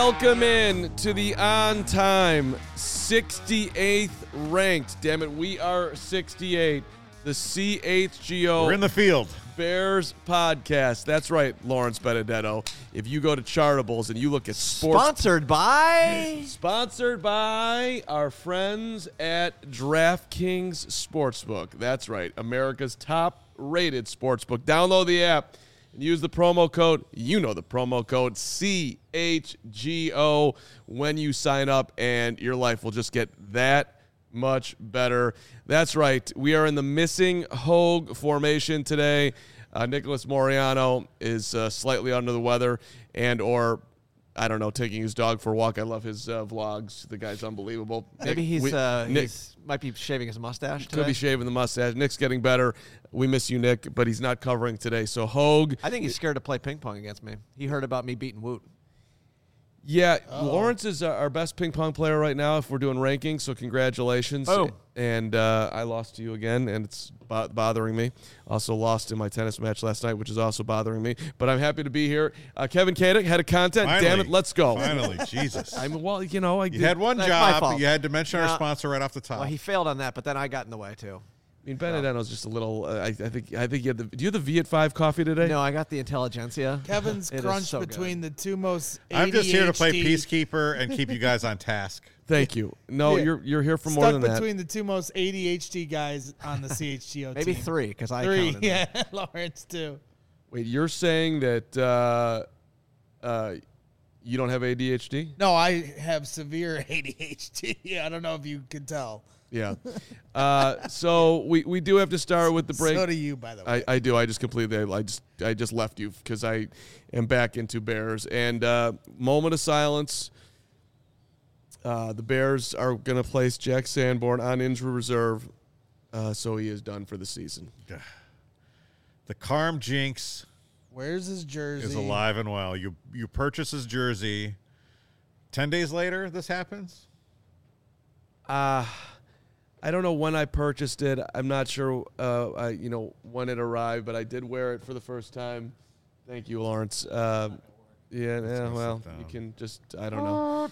Welcome in to the on-time 68th ranked. Damn it, we are 68. The CHGO. We're in the field. Bears podcast. That's right, Lawrence Benedetto. If you go to Chartables and you look at sports. Sponsored by our friends at DraftKings Sportsbook. That's right, America's top-rated sportsbook. Download the app and use the promo code, CHGO when you sign up, and your life will just get that much better. That's right. We are in the missing Hogue formation today. Nicholas Moriano is slightly under the weather or I don't know, taking his dog for a walk. I love his vlogs. The guy's unbelievable. Maybe he might be shaving his mustache today. Could be shaving the mustache. Nick's getting better. We miss you, Nick, but he's not covering today. So Hogue. I think he's scared to play ping pong against me. He heard about me beating Woot. Yeah, Lawrence is our best ping pong player right now if we're doing rankings, so congratulations. Oh. And I lost to you again, and it's bothering me. Also lost in my tennis match last night, which is also bothering me. But I'm happy to be here. Kevin Kadick, head of content. Finally, damn it, let's go. Finally, Jesus. You had one That's my job. fault. You had to mention our sponsor right off the top. Well, he failed on that, but then I got in the way, too. I mean, Benedetto's just a little. I think you had the. Do you have the V at 5 coffee today? No, I got the Intelligentsia. Kevin's It is crunch so between the two most ADHD. I'm just here to play peacekeeper and keep you guys on task. Thank you. No, Yeah. you're here for more Stuck than that. between the two most ADHD guys on the CHGO Maybe team. 3, because I Three, counted. yeah. Lawrence, too. Wait, you're saying that you don't have ADHD? No, I have severe ADHD. I don't know if you can tell. Yeah. So we do have to start with the break. So do you, by the way. I do. I just completely. I just left you because I am back into Bears. And moment of silence. The Bears are going to place Jack Sanborn on injury reserve, so he is done for the season. The Carm Jinx Where's his jersey? is alive and well. You purchase his jersey. 10 days later, this happens? I don't know when I purchased it. I'm not sure, when it arrived, but I did wear it for the first time. Thank you, Lawrence. Well, you can just, I don't know.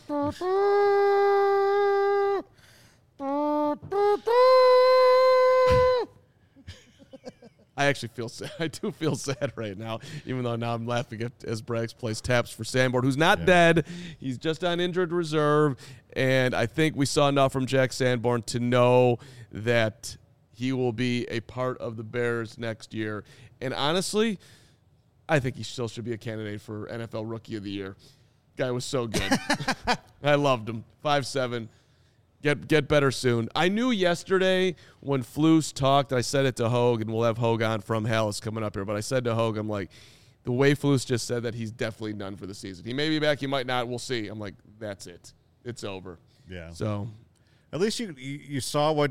I actually feel sad. I do feel sad right now, even though now I'm laughing at as Braggs plays taps for Sanborn, who's not dead. He's just on injured reserve, and I think we saw enough from Jack Sanborn to know that he will be a part of the Bears next year. And honestly, I think he still should be a candidate for NFL Rookie of the Year. Guy was so good. I loved him. 5'7". Get better soon. I knew yesterday when Flus talked, I said it to Hogue, and we'll have Hogue on from Hallis coming up here, but I said to Hogue, I'm like, the way Flus just said that, he's definitely done for the season. He may be back, he might not. We'll see. I'm like, that's it. It's over. Yeah. So at least you saw what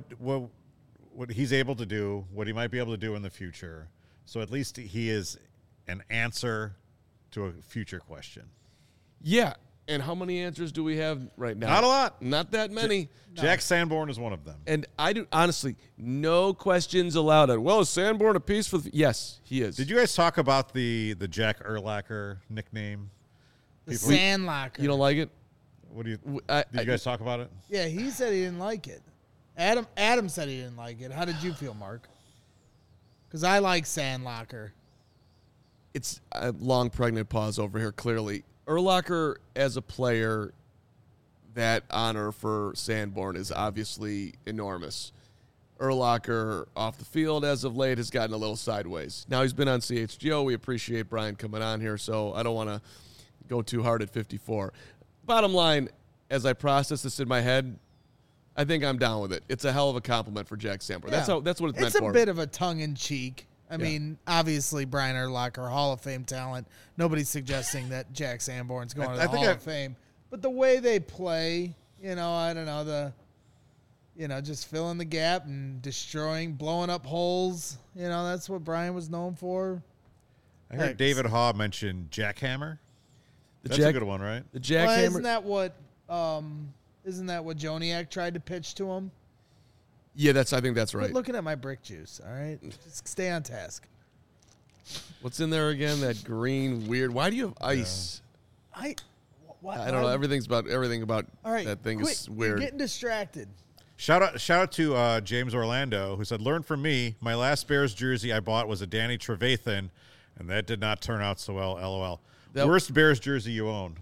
he's able to do, what he might be able to do in the future. So at least he is an answer to a future question. yeah. And how many answers do we have right now? Not a lot. Not that many. Jack Sanborn is one of them. And I do, honestly, no questions allowed. Well, is Sanborn a piece for the... Yes, he is. Did you guys talk about the Jack Urlacher nickname? the Sandlocker. You don't like it? What do you? I- Did you guys talk about it? Yeah, he said he didn't like it. Adam said he didn't like it. How did you feel, Mark? Because I like Sandlocker. It's a long pregnant pause over here, clearly. Urlacher, as a player, that honor for Sanborn is obviously enormous. Urlacher, off the field as of late, has gotten a little sideways. Now he's been on CHGO. We appreciate Brian coming on here, so I don't want to go too hard at 54. Bottom line, as I process this in my head, I think I'm down with it. It's a hell of a compliment for Jack Sanborn. Yeah. That's what it's meant It's for. a bit of a tongue-in-cheek. I mean, obviously, Brian Urlacher, Hall of Fame talent. Nobody's suggesting that Jack Sanborn's going to the Hall of Fame. But the way they play, I don't know, just filling the gap and destroying, blowing up holes. That's what Brian was known for. I heard David Haw mention Jackhammer. That's a good one, right? The Jackhammer. Well, isn't that what Joniak tried to pitch to him? Yeah, I think that's right. Quit looking at my brick juice, all right? Just stay on task. What's in there again? That green weird. Why do you have ice? I don't know. Everything about All right, that thing quit. is weird. You're getting distracted. Shout out to James Orlando, who said, "Learn from me. My last Bears jersey I bought was a Danny Trevathan, and that did not turn out so well. LOL. Worst Bears jersey you own?"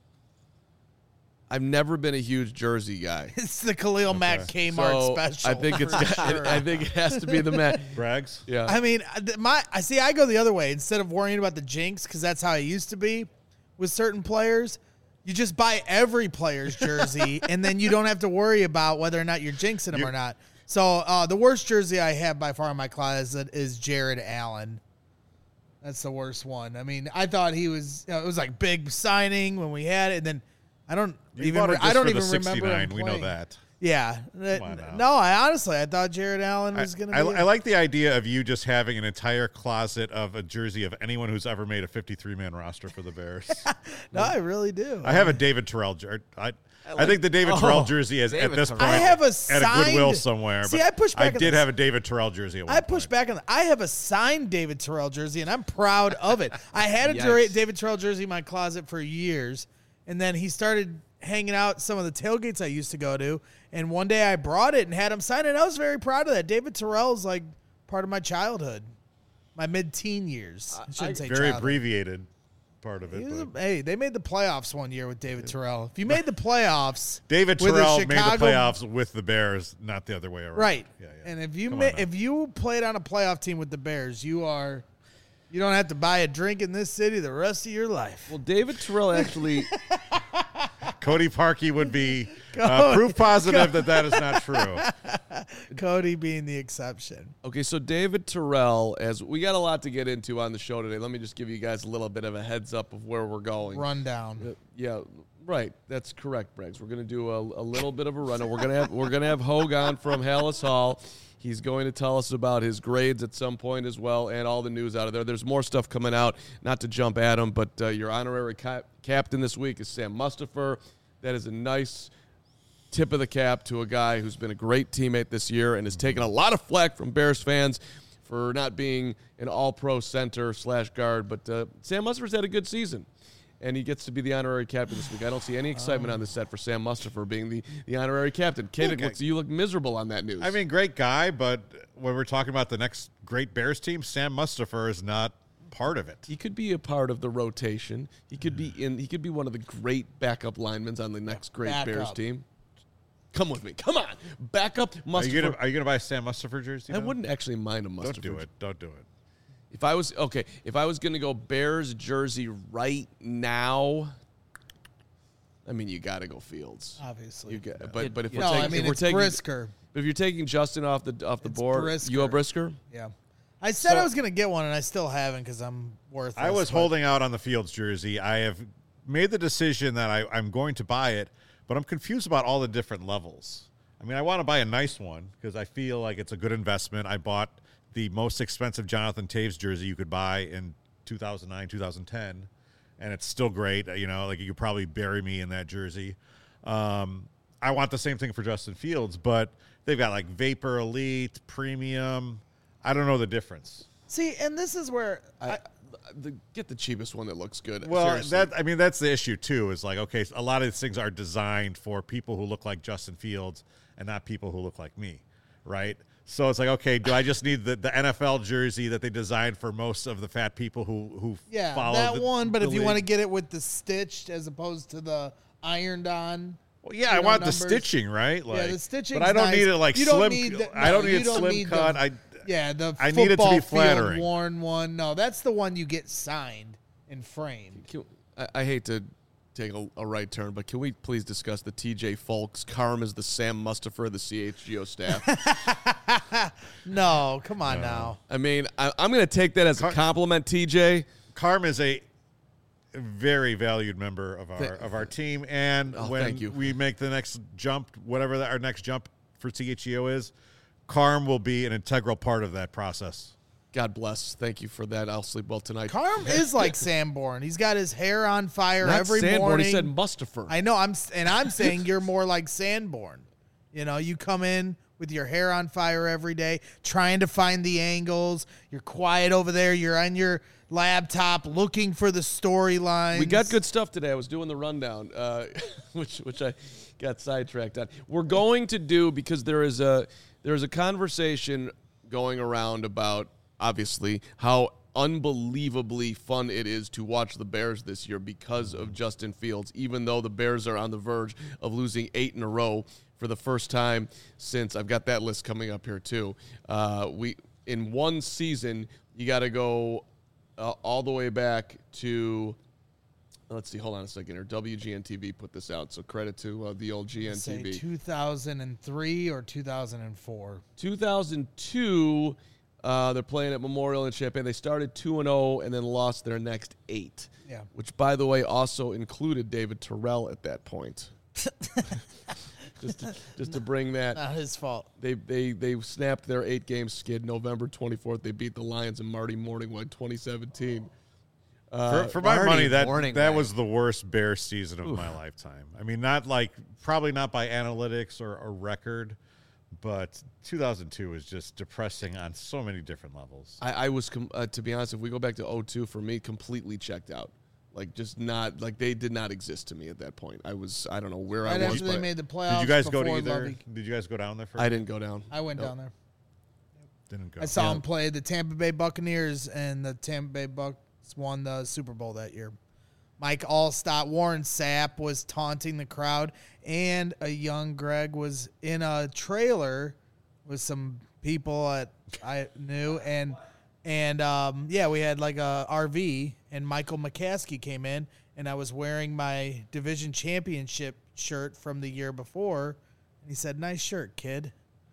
I've never been a huge jersey guy. It's the Khalil Mack Kmart special. I think I think it has to be the Matt Braggs. Yeah. I mean, I go the other way. Instead of worrying about the jinx, because that's how I used to be with certain players, you just buy every player's jersey, and then you don't have to worry about whether or not you're jinxing them or not. So the worst jersey I have by far in my closet is Jared Allen. That's the worst one. I mean, I thought he was. It was like big signing when we had it, and then I don't even remember him we know that. Yeah. No, I thought Jared Allen was going to be. I like the idea of you just having an entire closet of a jersey of anyone who's ever made a 53-man roster for the Bears. No, I really do. I have a David Terrell jersey. I think the David Terrell jersey is at this point I have a at a Goodwill somewhere. See, but I pushed back. I did have a David Terrell jersey at one point. pushed back on that. I have a signed David Terrell jersey, and I'm proud of it. I had a David Terrell jersey in my closet for years, and then he started hanging out some of the tailgates I used to go to, and one day I brought it and had him sign it. I was very proud of that. David Terrell is like part of my childhood, my mid-teen years. I shouldn't say very childhood. abbreviated part of it. Hey, they made the playoffs one year with David Terrell. If you made the playoffs, David Terrell made the playoffs with the Bears, not the other way around. Right. Yeah. And if you played on a playoff team with the Bears, you don't have to buy a drink in this city the rest of your life. Well, David Terrell actually Cody Parkey would be proof positive that is not true. Cody being the exception. Okay, so David Terrell, as we got a lot to get into on the show today, let me just give you guys a little bit of a heads up of where we're going. Rundown. Yeah, right. That's correct, Briggs. We're going to do a little bit of a rundown. We're gonna have Hogue on from Hallis Hall. He's going to tell us about his grades at some point as well, and all the news out of there. There's more stuff coming out. Not to jump at him, but your honorary captain this week is Sam Mustipher. That is a nice tip of the cap to a guy who's been a great teammate this year and has taken a lot of flack from Bears fans for not being an all-pro center / guard. But Sam Mustipher's had a good season, and he gets to be the honorary captain this week. I don't see any excitement on the set for Sam Mustipher being the honorary captain. Kaden, you look miserable on that news. I mean, great guy, but when we're talking about the next great Bears team, Sam Mustipher is not part of it. He could be a part of the rotation. He could be one of the great backup linemen on the next great Bears team. Come with me. Come on. Backup Mustipher. Are you gonna buy a Sam Mustipher jersey? I wouldn't actually mind a Mustipher. Don't do it. If I was going to go Bears jersey right now, I mean, you got to go Fields. Obviously. But if it's Brisker. If you're taking Justin off the board, Brisker. you a Brisker? Yeah. I said I was going to get one, and I still haven't because I'm worthless. I was holding out on the Fields jersey. I have made the decision that I'm going to buy it, but I'm confused about all the different levels. I mean, I want to buy a nice one because I feel like it's a good investment. I bought the most expensive Jonathan Taves jersey you could buy in 2009, 2010, and it's still great. You know, like you could probably bury me in that jersey. I want the same thing for Justin Fields, but they've got like Vapor Elite, Premium. I don't know the difference. See, and this is where get the cheapest one that looks good. Well, seriously. that's the issue too. Is like, okay, a lot of these things are designed for people who look like Justin Fields and not people who look like me, right? So it's like, okay, do I just need the NFL jersey that they designed for most of the fat people who follow that one? But if you want to league? get it with the stitched as opposed to the ironed on. Well, yeah, I want the stitching, right? Like, the stitching. But I don't need it like you slim. Don't need the, no, I don't need it slim need cut. I need it to be flattering. Field worn one. No, that's the one you get signed and framed. I hate to take a right turn, but can we please discuss the TJ Folks? Carm is the Sam Mustipher of the CHGO staff. No, come on now. I mean, I'm going to take that as a compliment, TJ. Carm is a very valued member of our team, and when we make the next jump, whatever our next jump for CHGO is, Carm will be an integral part of that process. God bless. Thank you for that. I'll sleep well tonight. Carm is like Sanborn. He's got his hair on fire every Sanborn, morning. He said Mustipher. I know. I'm saying you're more like Sanborn. You know, you come in with your hair on fire every day, trying to find the angles. You're quiet over there. You're on your laptop looking for the storylines. We got good stuff today. I was doing the rundown, which I got sidetracked on. We're going to do, because there is a conversation going around about, obviously, how unbelievably fun it is to watch the Bears this year because of Justin Fields, even though the Bears are on the verge of losing 8 in a row for the first time since, I've got that list coming up here too. In one season, you got to go all the way back to, let's see, hold on a second here. WGN-TV put this out, so credit to the old GNTV. Say 2003 or 2004. 2002, they're playing at Memorial in Champaign. They started 2-0 and then lost their next 8. Yeah. Which, by the way, also included David Terrell at that point. just to bring that. Not his fault. They snapped their 8-game skid November 24th. They beat the Lions and Marty Morningwood 2017. For my money, Morning, that man. was the worst Bears season of my lifetime. I mean, probably not by analytics or record, but 2002 was just depressing on so many different levels. I was, to be honest, if we go back to 2002, for me, completely checked out. They did not exist to me at that point. I don't know where I was. After they made the playoffs. Did you guys go to before either? Lovey. Did you guys go down there first? I didn't go down. I went down there. Didn't go. I saw him play the Tampa Bay Buccaneers, and the Tampa Bay Bucs won the Super Bowl that year. Mike Allstott, Warren Sapp was taunting the crowd, and a young Greg was in a trailer with some people that I knew, and we had like a RV, and Michael McCaskey came in, and I was wearing my division championship shirt from the year before, and he said, "Nice shirt, kid."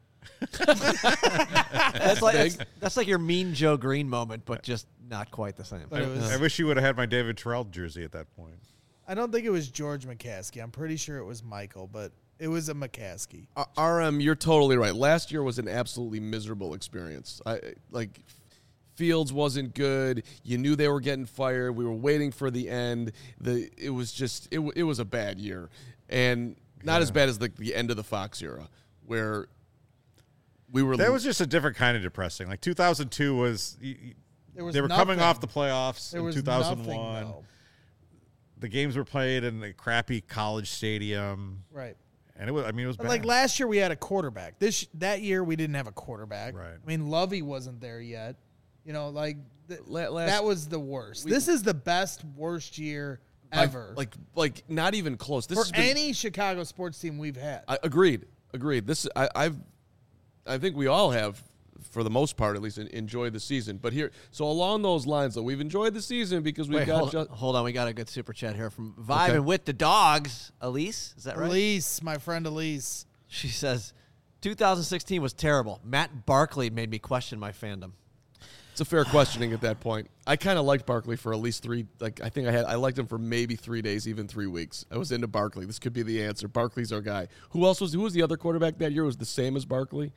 That's like your Mean Joe Green moment, but just not quite the same. But it was, I wish you would have had my David Terrell jersey at that point. I don't think it was George McCaskey. I'm pretty sure it was Michael, but it was a McCaskey. RM, you're totally right. Last year was an absolutely miserable experience. Fields wasn't good. You knew they were getting fired. We were waiting for the end. It was a bad year, and not as bad as the end of the Fox era, where we were. That was just a different kind of depressing. Like 2002 was. They were coming off the playoffs in 2001. The games were played in a crappy college stadium, Right. and it was. I mean, it was But bad. like last year, we had a quarterback. That year, we didn't have a quarterback. Right. I mean, Lovey wasn't there yet. You know, like last, that was the worst. This is the worst year ever. Like not even close. This for has been, any Chicago sports team we've had. Agreed. This I think we all have, for the most part at least, enjoyed the season. But so along those lines, though, we've enjoyed the season because we've hold on, we got a good super chat here from Vibing with the Dogs. Elise, is that right? Elise, my friend Elise. She says, 2016 was terrible. Matt Barkley made me question my fandom. It's a fair questioning at that point. I kind of liked Barkley for at least 3. I liked him for maybe 3 days, even 3 weeks. I was into Barkley. This could be the answer. Barkley's our guy. Who was the other quarterback that year? Was the same as Barkley?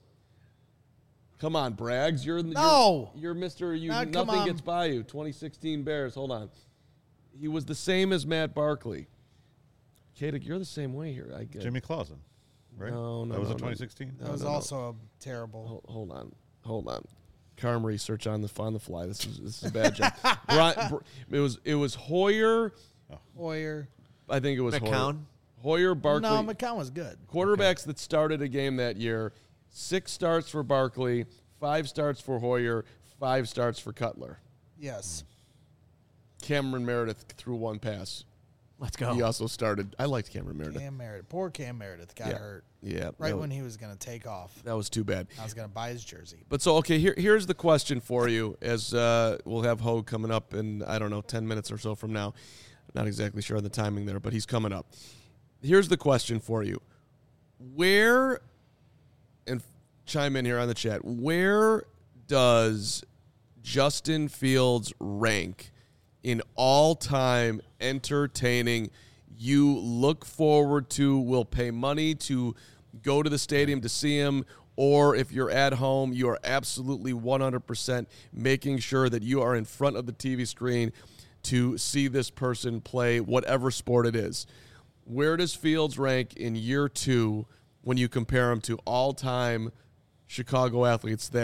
Come on, Braggs. You're Mr. Nothing gets by you. 2016 Bears. Hold on. He was the same as Matt Barkley. Katic, you're the same way here. I guess. Jimmy Clausen, right? No, that was in 2016. That was also a terrible. Hold on. Carm research on the fly. This is a bad job. It was Hoyer. Hoyer. I think it was McCown. Hoyer, Barkley. No, McCown was good. Quarterbacks that started a game that year. 6 starts for Barkley, 5 starts for Hoyer, 5 starts for Cutler. Yes. Cameron Meredith threw 1 pass. Let's go. He also started. I liked Cameron Meredith. Poor Cam Meredith got hurt. Yeah. Right when he was going to take off. That was too bad. I was going to buy his jersey. But so, okay, here's the question for you, as we'll have Hogue coming up in, 10 minutes or so from now. Not exactly sure on the timing there, but he's coming up. Here's the question for you. Where, and chime in here on the chat, where does Justin Fields rank in all-time entertaining, you look forward to, will pay money to go to the stadium to see him, or if you're at home, you are absolutely 100% making sure that you are in front of the TV screen to see this person play whatever sport it is? Where does Fields rank in year 2 when you compare him to all-time Chicago athletes that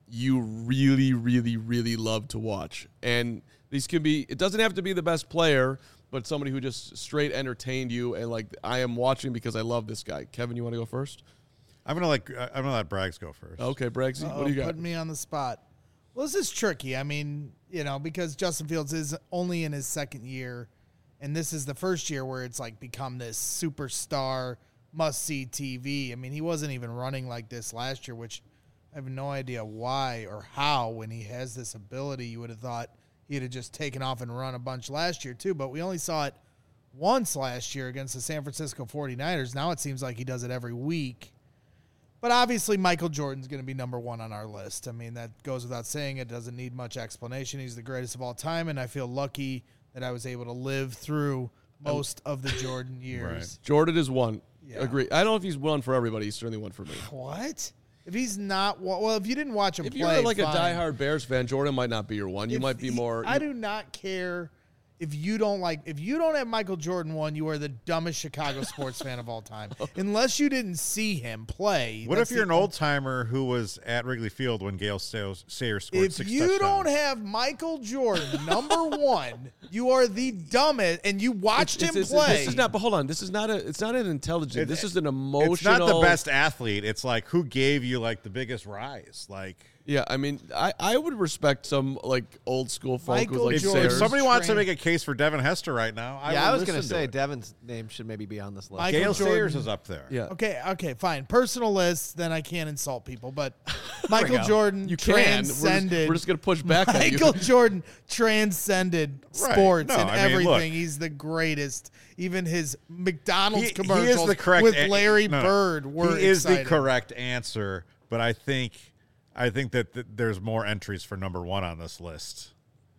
you really, really, really love to watch. And these can be, it doesn't have to be the best player, but somebody who just straight entertained you. And like, I am watching because I love this guy. Kevin, you want to go first? I'm gonna let Braggs go first. Okay, Braggsy, what do you got? Putting me on the spot. Well, this is tricky. I mean, because Justin Fields is only in his second year, and this is the first year where it's like become this superstar must-see TV. I mean, he wasn't even running like this last year, which I have no idea why or how. When he has this ability, you would have thought he'd have just taken off and run a bunch last year too, but we only saw it once last year against the San Francisco 49ers. Now it seems like he does it every week. But obviously Michael Jordan's going to be number one on our list. I mean, that goes without saying. It doesn't need much explanation. He's the greatest of all time, and I feel lucky that I was able to live through most of the Jordan years. Right. Jordan is one. Yeah. Agree. I don't know if he's one for everybody. He's certainly one for me. What? If he's not, well, if you didn't watch him If play, you're like fine. a diehard Bears fan, Jordan might not be your one. You might be more. I do not care if you don't have Michael Jordan one. You are the dumbest Chicago sports fan of all time, unless you didn't see him play. What if you're an old timer who was at Wrigley Field when Gale Sayers scored 6 touchdowns? If you don't have Michael Jordan number one, you are the dumbest, and you watched him play. This is not. But hold on. This is not a. It's not an intelligent. This is an emotional. It's not the best athlete. It's like who gave you like the biggest rise. Like Yeah, I mean, I would respect some like old school folk Michael with like if, Jordan. if Sayers. somebody wants to make a case for Devin Hester right now, I was going gonna to say it. Devin's name should maybe be on this list. Michael Gale Jordan. Sayers is up there. Yeah, Okay, fine. Personal list, then I can't insult people. But Michael go. Jordan you can. transcended. We're just gonna push back on you. Michael Jordan transcended Right. sports No, and I mean, everything. look. He's the greatest. Even his McDonald's He is commercials the correct with an- Larry no, Bird were He is exciting. the correct answer, but I think that there's more entries for number one on this list.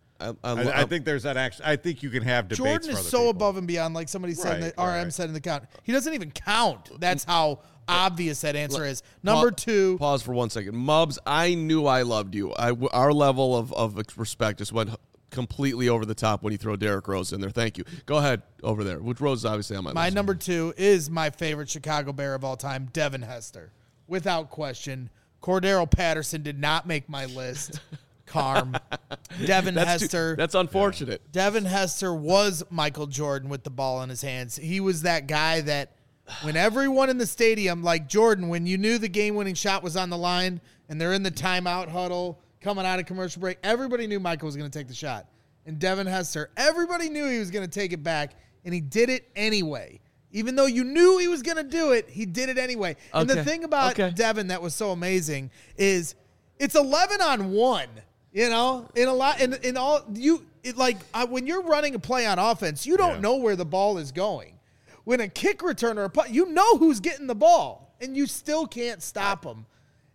I think there's that. I think you can have debates. Jordan for is other so people. above and beyond, like somebody said, in Right, the RM right. said in the count. He doesn't even count. That's how obvious that answer is. Number two. Pause for 1 second. Mubs, I knew I loved you. Our level of respect just went completely over the top when you throw Derrick Rose in there. Thank you. Go ahead over there. Which Rose is obviously on my My list. number two is my favorite Chicago Bear of all time, Devin Hester. Without question. Cordero Patterson did not make my list. Carm. Devin Hester. That's unfortunate. Devin Hester was Michael Jordan with the ball in his hands. He was that guy that when everyone in the stadium, like Jordan, when you knew the game-winning shot was on the line and they're in the timeout huddle coming out of commercial break, everybody knew Michael was going to take the shot. And Devin Hester, everybody knew he was going to take it back, and he did it anyway. Even though you knew he was going to do it, he did it anyway. And the Okay. thing about Okay. Devin that was so amazing is it's 11-on-1. You know, in a lot, in all you it like when you're running a play on offense, you don't know where the ball is going. When a kick returner, you know who's getting the ball, and you still can't stop him.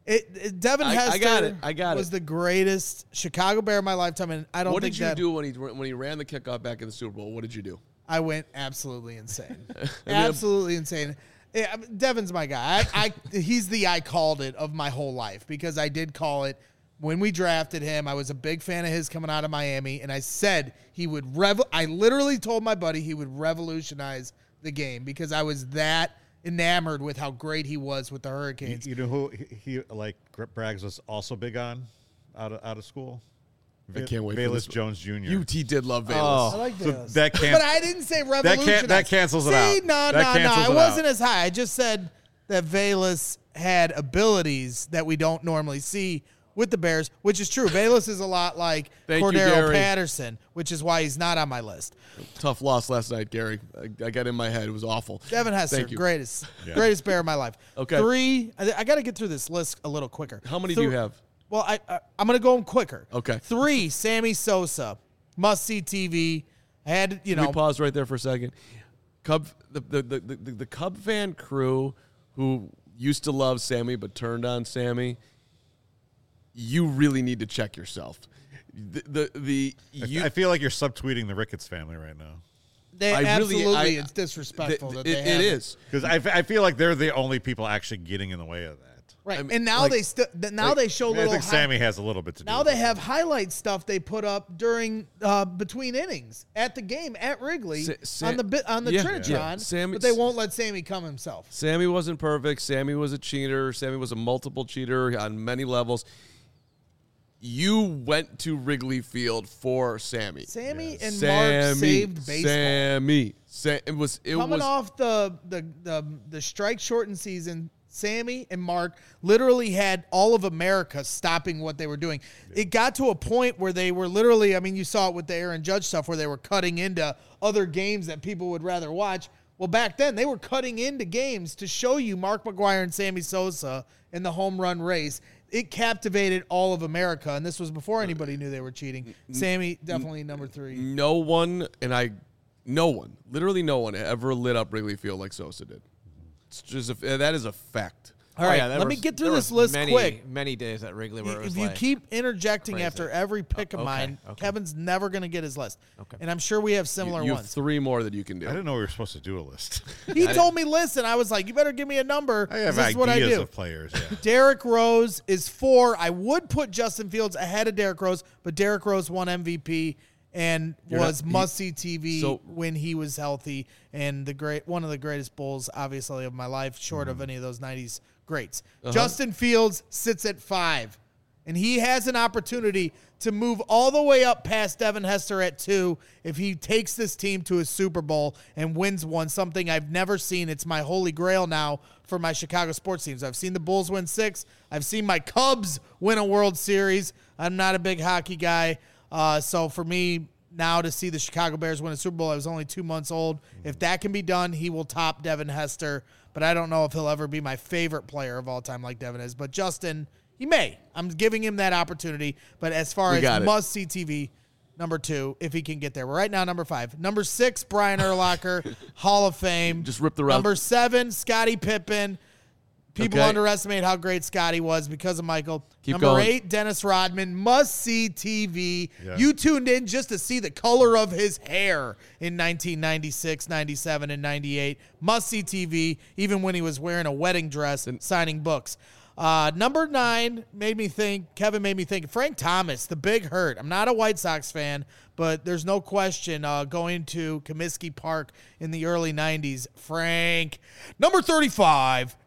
Devin Hester I got it. was the greatest Chicago Bear of my lifetime, and I don't What think did you that do when he ran the kickoff back in the Super Bowl? What did you do? I went absolutely insane, absolutely insane. Yeah, Devin's my guy. He's the I called it of my whole life because I did call it. When we drafted him, I was a big fan of his coming out of Miami, and I said he would I literally told my buddy he would revolutionize the game because I was that enamored with how great he was with the Hurricanes. You know who he like Braggs was also big on out of school? I can't wait for Bayless this. Jones Jr. UT did love Bayless. I like So this. that can't- but I didn't say revolutionize. that cancels it See, out. No, That cancels it it wasn't out. as high. I just said that Bayless had abilities that we don't normally see with the Bears, which is true. Bayless is a lot like Thank you, Cordero Gary. Patterson, which is why he's not on my list. Tough loss last night, Gary. I got in my head. It was awful. Devin Hester, Thank you. greatest Bear of my life. Okay. 3, I got to get through this list a little quicker. How many do you have? Well, I'm going to go quicker. Okay. 3, Sammy Sosa, must-see TV. I had, Can we pause right there for a second? The Cub fan crew who used to love Sammy but turned on Sammy, you really need to check yourself. I feel like you're subtweeting the Ricketts family right now. It's disrespectful that they have it is. Because I feel like they're the only people actually getting in the way of that. Right, I mean, and now like- they they show I little. think Sammy has a little bit to do now with they it. have highlight stuff they put up during between innings at the game at Wrigley on the yeah, Trinitron, yeah. Sammy- but they won't let Sammy come himself. Sammy wasn't perfect. Sammy was a cheater. Sammy was a multiple cheater on many levels. you went to Wrigley Field for Sammy. Mark saved baseball. It was coming off the strike shortened season. Sammy and Mark literally had all of America stopping what they were doing. It got to a point where they were literally, I mean, you saw it with the Aaron Judge stuff where they were cutting into other games that people would rather watch. Well, back then, they were cutting into games to show you Mark McGwire and Sammy Sosa in the home run race. It captivated all of America, and this was before anybody knew they were cheating. Sammy, definitely number 3. No one, literally no one ever lit up Wrigley Field like Sosa did. It's just that is a fact. All right, let me get through this list quick. Many days at Wrigley where it was if you keep interjecting crazy. after every pick of mine, Kevin's never going to get his list. Okay. And I'm sure we have similar you ones. Have 3 more that you can do. I didn't know we were supposed to do a list. He told me list, and I was like, you better give me a number. I have this is ideas what I do. of players. Yeah. Derrick Rose is 4. I would put Justin Fields ahead of Derrick Rose, but Derrick Rose won MVP and was must-see TV when he was healthy, and one of the greatest Bulls, obviously, of my life, short of any of those 90s greats. Justin Fields sits at 5, and he has an opportunity to move all the way up past Devin Hester at 2 if he takes this team to a Super Bowl and wins one, something I've never seen. It's my holy grail now for my Chicago sports teams. I've seen the Bulls win 6. I've seen my Cubs win a World Series. I'm not a big hockey guy. So for me now to see the Chicago Bears win a Super Bowl, I was only 2 months old. If that can be done, he will top Devin Hester. But I don't know if he'll ever be my favorite player of all time like Devin is. But Justin, he may. I'm giving him that opportunity. But as far as must-see TV, number 2, if he can get there. We're right now number 5. Number 6, Brian Urlacher, Hall of Fame. Just rip the route. Number 7, Scottie Pippen. People underestimate how great Scottie was because of Michael. Number 8, Dennis Rodman. Must-see TV. Yeah. You tuned in just to see the color of his hair in 1996, 97, and 98. Must-see TV, even when he was wearing a wedding dress and signing books. Number 9 Kevin made me think, Frank Thomas, the Big Hurt. I'm not a White Sox fan, but there's no question going to Comiskey Park in the early 90s. Frank. Number 35,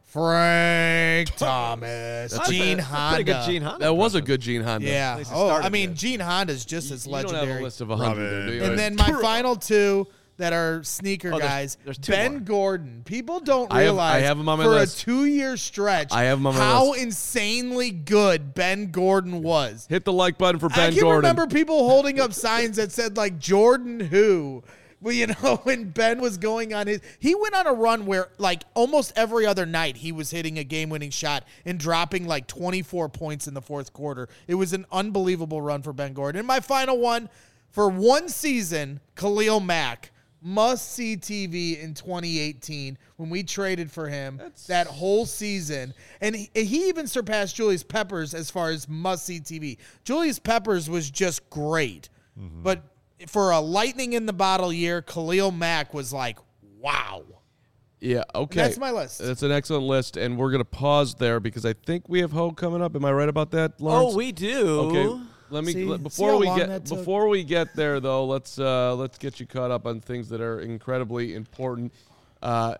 Frank Thomas. Gene Honda. Pretty good Gene Honda. That was a good Gene Honda. Yeah. Gene Honda's just as legendary. You don't have a list of 100, do you? And then my final 2 that are sneaker guys. There's 2 Ben more. Gordon. People don't realize I have him on my for list. a 2-year stretch I have him on my how list. insanely good Ben Gordon was. Hit the like button for Ben I can Gordon. remember people holding up signs that said like Jordan who. Well, when Ben was going on he went on a run where like almost every other night he was hitting a game-winning shot and dropping like 24 points in the fourth quarter. It was an unbelievable run for Ben Gordon. And my final one, for one season, Khalil Mack, must-see TV in 2018 when we traded for him that whole season. And he even surpassed Julius Peppers as far as must-see TV. Julius Peppers was just great. Mm-hmm. But for a lightning in the bottle year, Khalil Mack was like, wow. Yeah, okay. That's my list. That's an excellent list, and we're going to pause there because I think we have Hogue coming up. Am I right about that, Lawrence? Oh, we do. Okay. Before we get there though, let's get you caught up on things that are incredibly important. We'll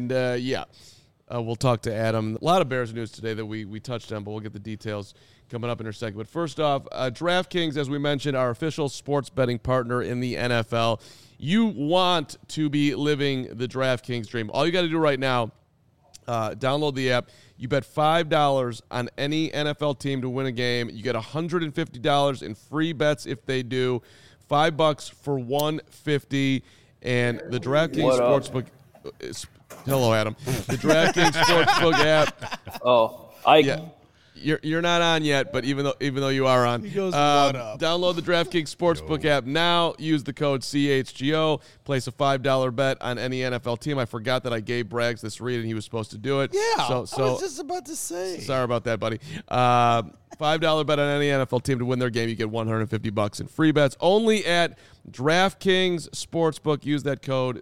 talk to Adam. A lot of Bears news today that we touched on, but we'll get the details coming up in our segment. But first off, DraftKings, as we mentioned, our official sports betting partner in the NFL. You want to be living the DraftKings dream. All you got to do right now, download the app. You bet $5 on any NFL team to win a game. You get $150 in free bets if they do. $5 for $150. And the DraftKings Sportsbook. Hello, Adam. The DraftKings Sportsbook app. Oh, You're not on yet, but even though you are on, he goes, what up? Download the DraftKings Sportsbook app now. Use the code CHGO. Place a $5 bet on any NFL team. I forgot that I gave Braggs this read, and he was supposed to do it. Yeah, so I was just about to say. Sorry about that, buddy. $5 bet on any NFL team to win their game. You get $150 in free bets. Only at DraftKings Sportsbook. Use that code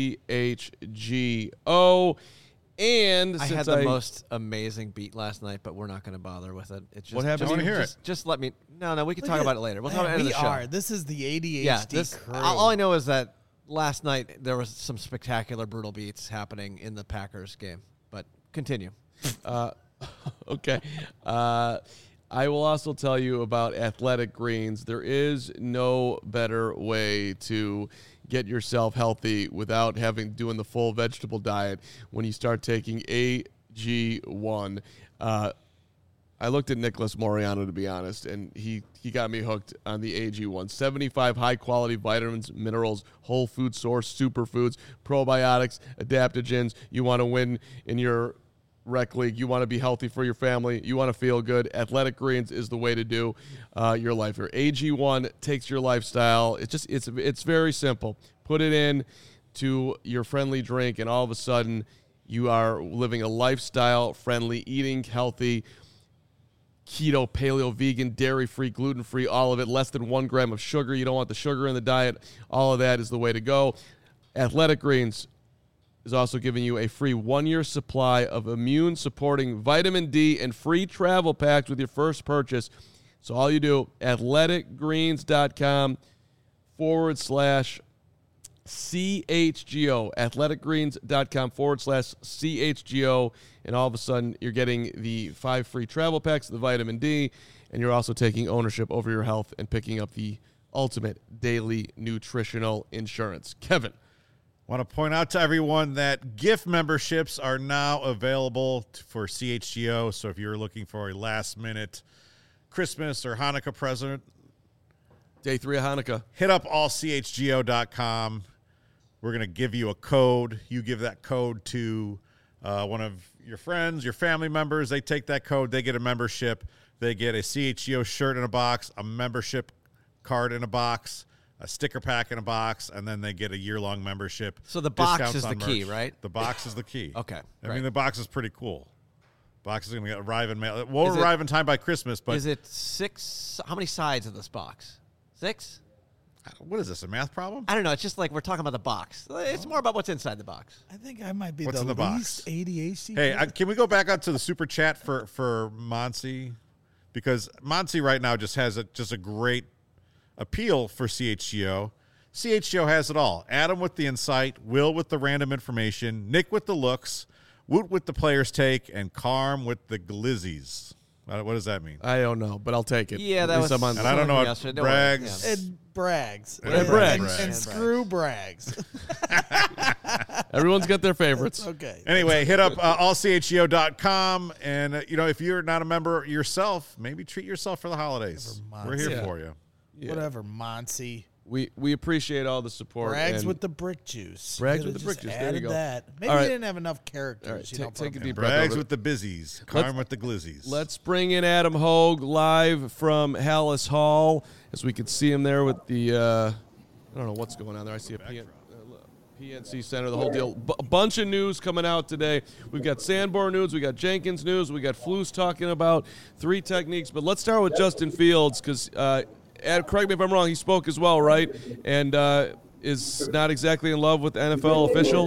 CHGO. And I had the most amazing beat last night, but we're not going to bother with it. It just, what happened? I want to hear it. Just let me. No, we can talk about it later. We'll talk about it at the end of the show. This is the ADHD crew. All I know is that last night there was some spectacular, brutal beats happening in the Packers game. But continue. Okay. I will also tell you about Athletic Greens. There is no better way to get yourself healthy without doing the full vegetable diet when you start taking AG1. I looked at Nicholas Moriano, to be honest, and he got me hooked on the AG1. 75 high-quality vitamins, minerals, whole food source, superfoods, probiotics, adaptogens. You want to win in your rec league. You want to be healthy for your family. You want to feel good. Athletic Greens is the way to do your life here. AG1 takes your lifestyle. It's very simple. Put it in to your friendly drink, and all of a sudden you are living a lifestyle-friendly, eating healthy, keto, paleo, vegan, dairy-free, gluten-free, all of it, less than 1 gram of sugar. You don't want the sugar in the diet. All of that is the way to go. Athletic Greens is also giving you a free 1-year supply of immune-supporting vitamin D and free travel packs with your first purchase. So all you do, athleticgreens.com/CHGO, athleticgreens.com/CHGO, and all of a sudden you're getting the 5 free travel packs of the vitamin D, and you're also taking ownership over your health and picking up the ultimate daily nutritional insurance. Kevin. Want to point out to everyone that gift memberships are now available for CHGO. So if you're looking for a last-minute Christmas or Hanukkah present, Day 3 of Hanukkah, hit up allchgo.com. We're going to give you a code. You give that code to one of your friends, your family members. They take that code. They get a membership. They get a CHGO shirt in a box, a membership card in a box, a sticker pack in a box, and then they get a year-long membership. So the box Discounts is the on key, merch. right? The box is the key. Okay, I right. mean, the box is pretty cool. Box is going to arrive in mail. It Is won't it- arrive in time by Christmas, but Is it 6? How many sides of this box? 6? what is this, a math problem? I don't know. It's just like we're talking about the box. It's more about what's inside the box. I think I might be What's the in the box? least ADHD. Hey, can we go back up to the super chat for Monsi? Because Monsi right now just has a great appeal for CHGO. CHGO has it all. Adam with the insight, Will with the random information, Nick with the looks, Woot with the player's take, and Carm with the glizzies. What does that mean? I don't know, but I'll take it. Yeah, At that least was. I'm on- And I don't know what yesterday. Don't worry. Braggs- Yeah. And Braggs. And Braggs. And screw Braggs. Everyone's got their favorites. Okay. Anyway, hit up allchgo.com. And, if you're not a member yourself, maybe treat yourself for the holidays. We're here Yeah. for you. Yeah. Whatever, Monty. We appreciate all the support. Braggs and with the brick juice. Braggs You with the could've brick just juice. There you added go. That. Maybe All right. you didn't have enough characters. All right, you know, take a from deep him. breath. Braggs with the bizzies, Carm with the glizzies. Let's bring in Adam Hogue live from Hallis Hall, as we can see him there with the I don't know what's going on there. I see a PNC Center, the whole deal. A bunch of news coming out today. We've got Sanborn news, we got Jenkins news, we got Flus talking about 3 techniques. But let's start with Justin Fields, because correct me if I'm wrong, he spoke as well, right? And is not exactly in love with NFL officials.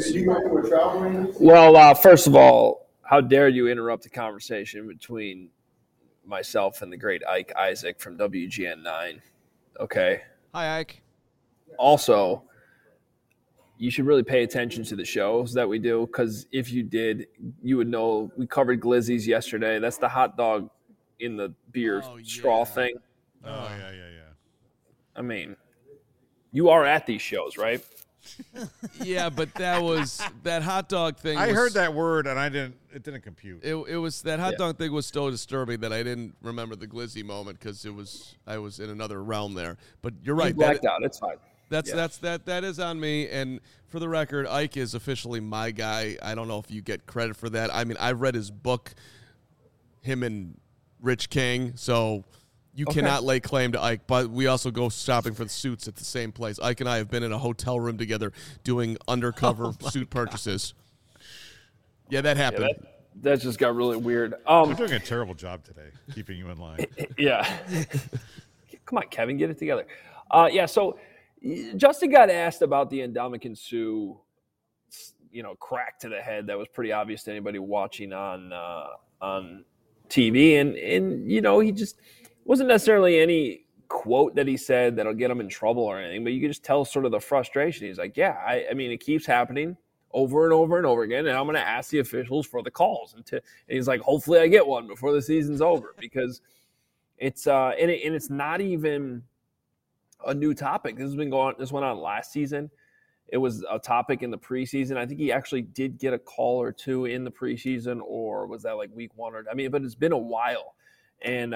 Well, first of all, how dare you interrupt the conversation between myself and the great Ike Isaac from WGN9? Okay. Hi, Ike. Also, you should really pay attention to the shows that we do, because if you did, you would know we covered glizzies yesterday. That's the hot dog in the beer straw thing. Oh, yeah. I mean, you are at these shows, right? Yeah, but that hot dog thing. I was- heard that word, and it didn't compute. It was that hot dog thing was so disturbing that I didn't remember the glizzy moment because I was in another realm there. But you're right. You blacked out. It's fine. That is on me. And for the record, Ike is officially my guy. I don't know if you get credit for that. I mean, I've read his book, him and Rich King, so you cannot lay claim to Ike. But we also go shopping for the suits at the same place. Ike and I have been in a hotel room together doing undercover suit purchases. Yeah, that happened. Yeah, that just got really weird. You're doing a terrible job today, keeping you in line. Yeah. Come on, Kevin, get it together. So Justin got asked about the Ndamukong Suh, crack to the head that was pretty obvious to anybody watching on TV. And he just wasn't necessarily any quote that he said that'll get him in trouble or anything, but you could just tell sort of the frustration. He's like, I mean, it keeps happening over and over and over again, and I'm going to ask the officials for the calls. And he's like, hopefully I get one before the season's over, because It's and it's not even a new topic. This went on last season. It was a topic in the preseason. I think he actually did get a call or two in the preseason, or was that like week 1 or? I mean, but it's been a while, and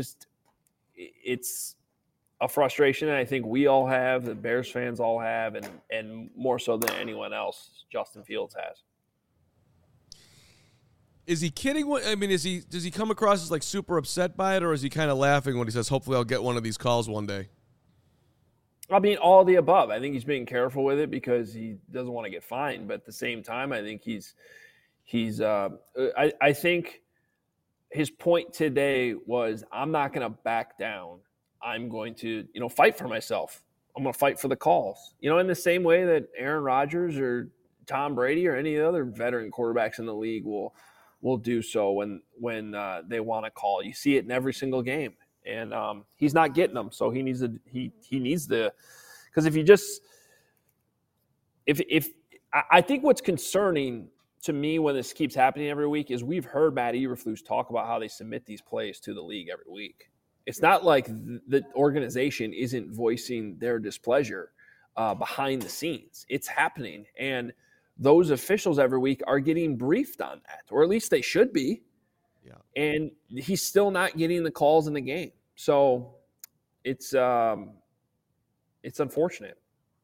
it's a frustration that I think we all have, the Bears fans all have, and more so than anyone else, Justin Fields has. Is he kidding? I mean, does he come across as like super upset by it, or is he kind of laughing when he says, "Hopefully, I'll get one of these calls one day"? I mean, all of the above. I think he's being careful with it because he doesn't want to get fined. But at the same time, I think I think his point today was, I'm not going to back down. I'm going to, fight for myself. I'm going to fight for the calls. In the same way that Aaron Rodgers or Tom Brady or any other veteran quarterbacks in the league will do so when they want to call. You see it in every single game. And he's not getting them, so he needs to. Because I think what's concerning to me when this keeps happening every week is we've heard Matt Eberflus talk about how they submit these plays to the league every week. It's not like the organization isn't voicing their displeasure behind the scenes. It's happening, and those officials every week are getting briefed on that, or at least they should be. Yeah. And he's still not getting the calls in the game. So it's unfortunate.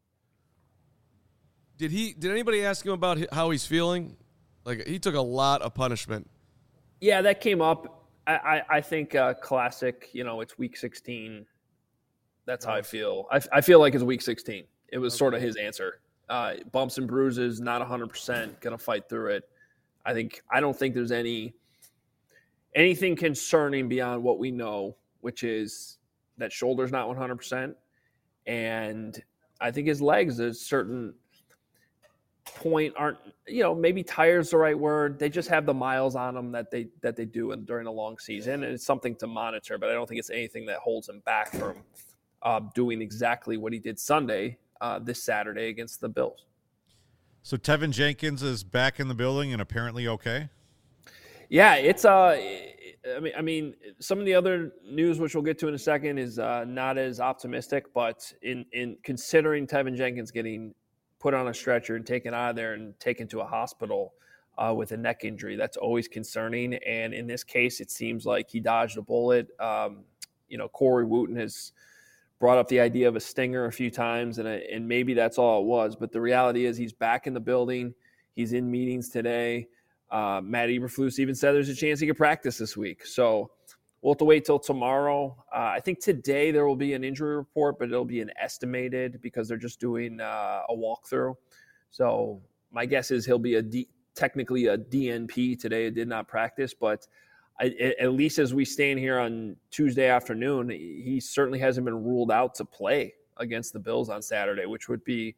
Did anybody ask him about how he's feeling? Like, he took a lot of punishment. Yeah, that came up. I think classic, it's week 16. That's how I feel. I feel like it's week 16. It was sort of his answer. Bumps and bruises, not 100%, going to fight through it. I don't think there's anything concerning beyond what we know, which is that shoulder's not 100%. And I think his legs at a certain point aren't, maybe tired's the right word. They just have the miles on them that they do during a long season. And it's something to monitor, but I don't think it's anything that holds him back from doing exactly what he did Sunday, this Saturday against the Bills. So Tevin Jenkins is back in the building and apparently okay? Yeah, it's I mean, some of the other news, which we'll get to in a second, is not as optimistic. But in considering Tevin Jenkins getting put on a stretcher and taken out of there and taken to a hospital with a neck injury, that's always concerning. And in this case, it seems like he dodged a bullet. Corey Wooten has brought up the idea of a stinger a few times, and maybe that's all it was. But the reality is he's back in the building. He's in meetings today. Matt Eberflus even said there's a chance he could practice this week. So we'll have to wait till tomorrow. I think today there will be an injury report, but it'll be an estimated because they're just doing a walkthrough. So my guess is he'll be technically a DNP today. It did not practice, but at least as we stand here on Tuesday afternoon, he certainly hasn't been ruled out to play against the Bills on Saturday, which would be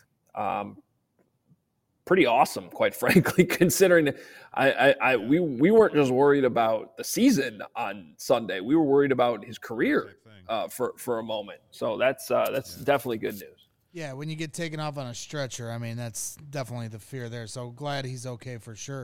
pretty awesome, quite frankly, considering we weren't just worried about the season on Sunday. We were worried about his career for a moment. So that's definitely good news. Yeah, when you get taken off on a stretcher, I mean, that's definitely the fear there. So glad he's okay for sure.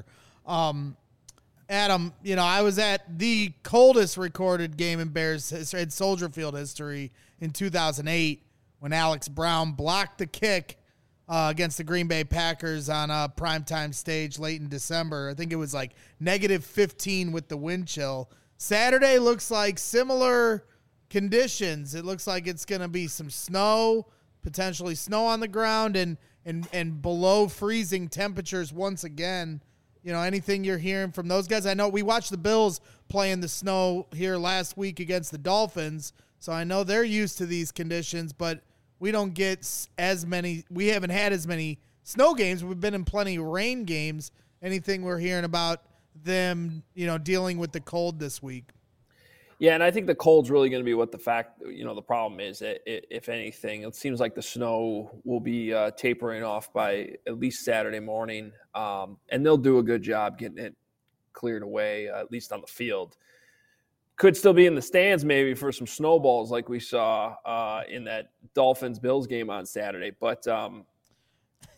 Adam, I was at the coldest recorded game in Bears history, in Soldier Field history in 2008 when Alex Brown blocked the kick against the Green Bay Packers on a primetime stage late in December. I think it was like -15 with the wind chill. Saturday looks like similar conditions. It looks like it's going to be some snow, potentially snow on the ground, and below freezing temperatures once again. Anything you're hearing from those guys? I know we watched the Bills play in the snow here last week against the Dolphins, so I know they're used to these conditions, but we don't get we haven't had as many snow games. We've been in plenty of rain games. Anything we're hearing about them, dealing with the cold this week? Yeah, and I think the cold's really going to be what the problem is. If anything, it seems like the snow will be tapering off by at least Saturday morning, and they'll do a good job getting it cleared away, at least on the field. Could still be in the stands maybe for some snowballs like we saw in that Dolphins-Bills game on Saturday. But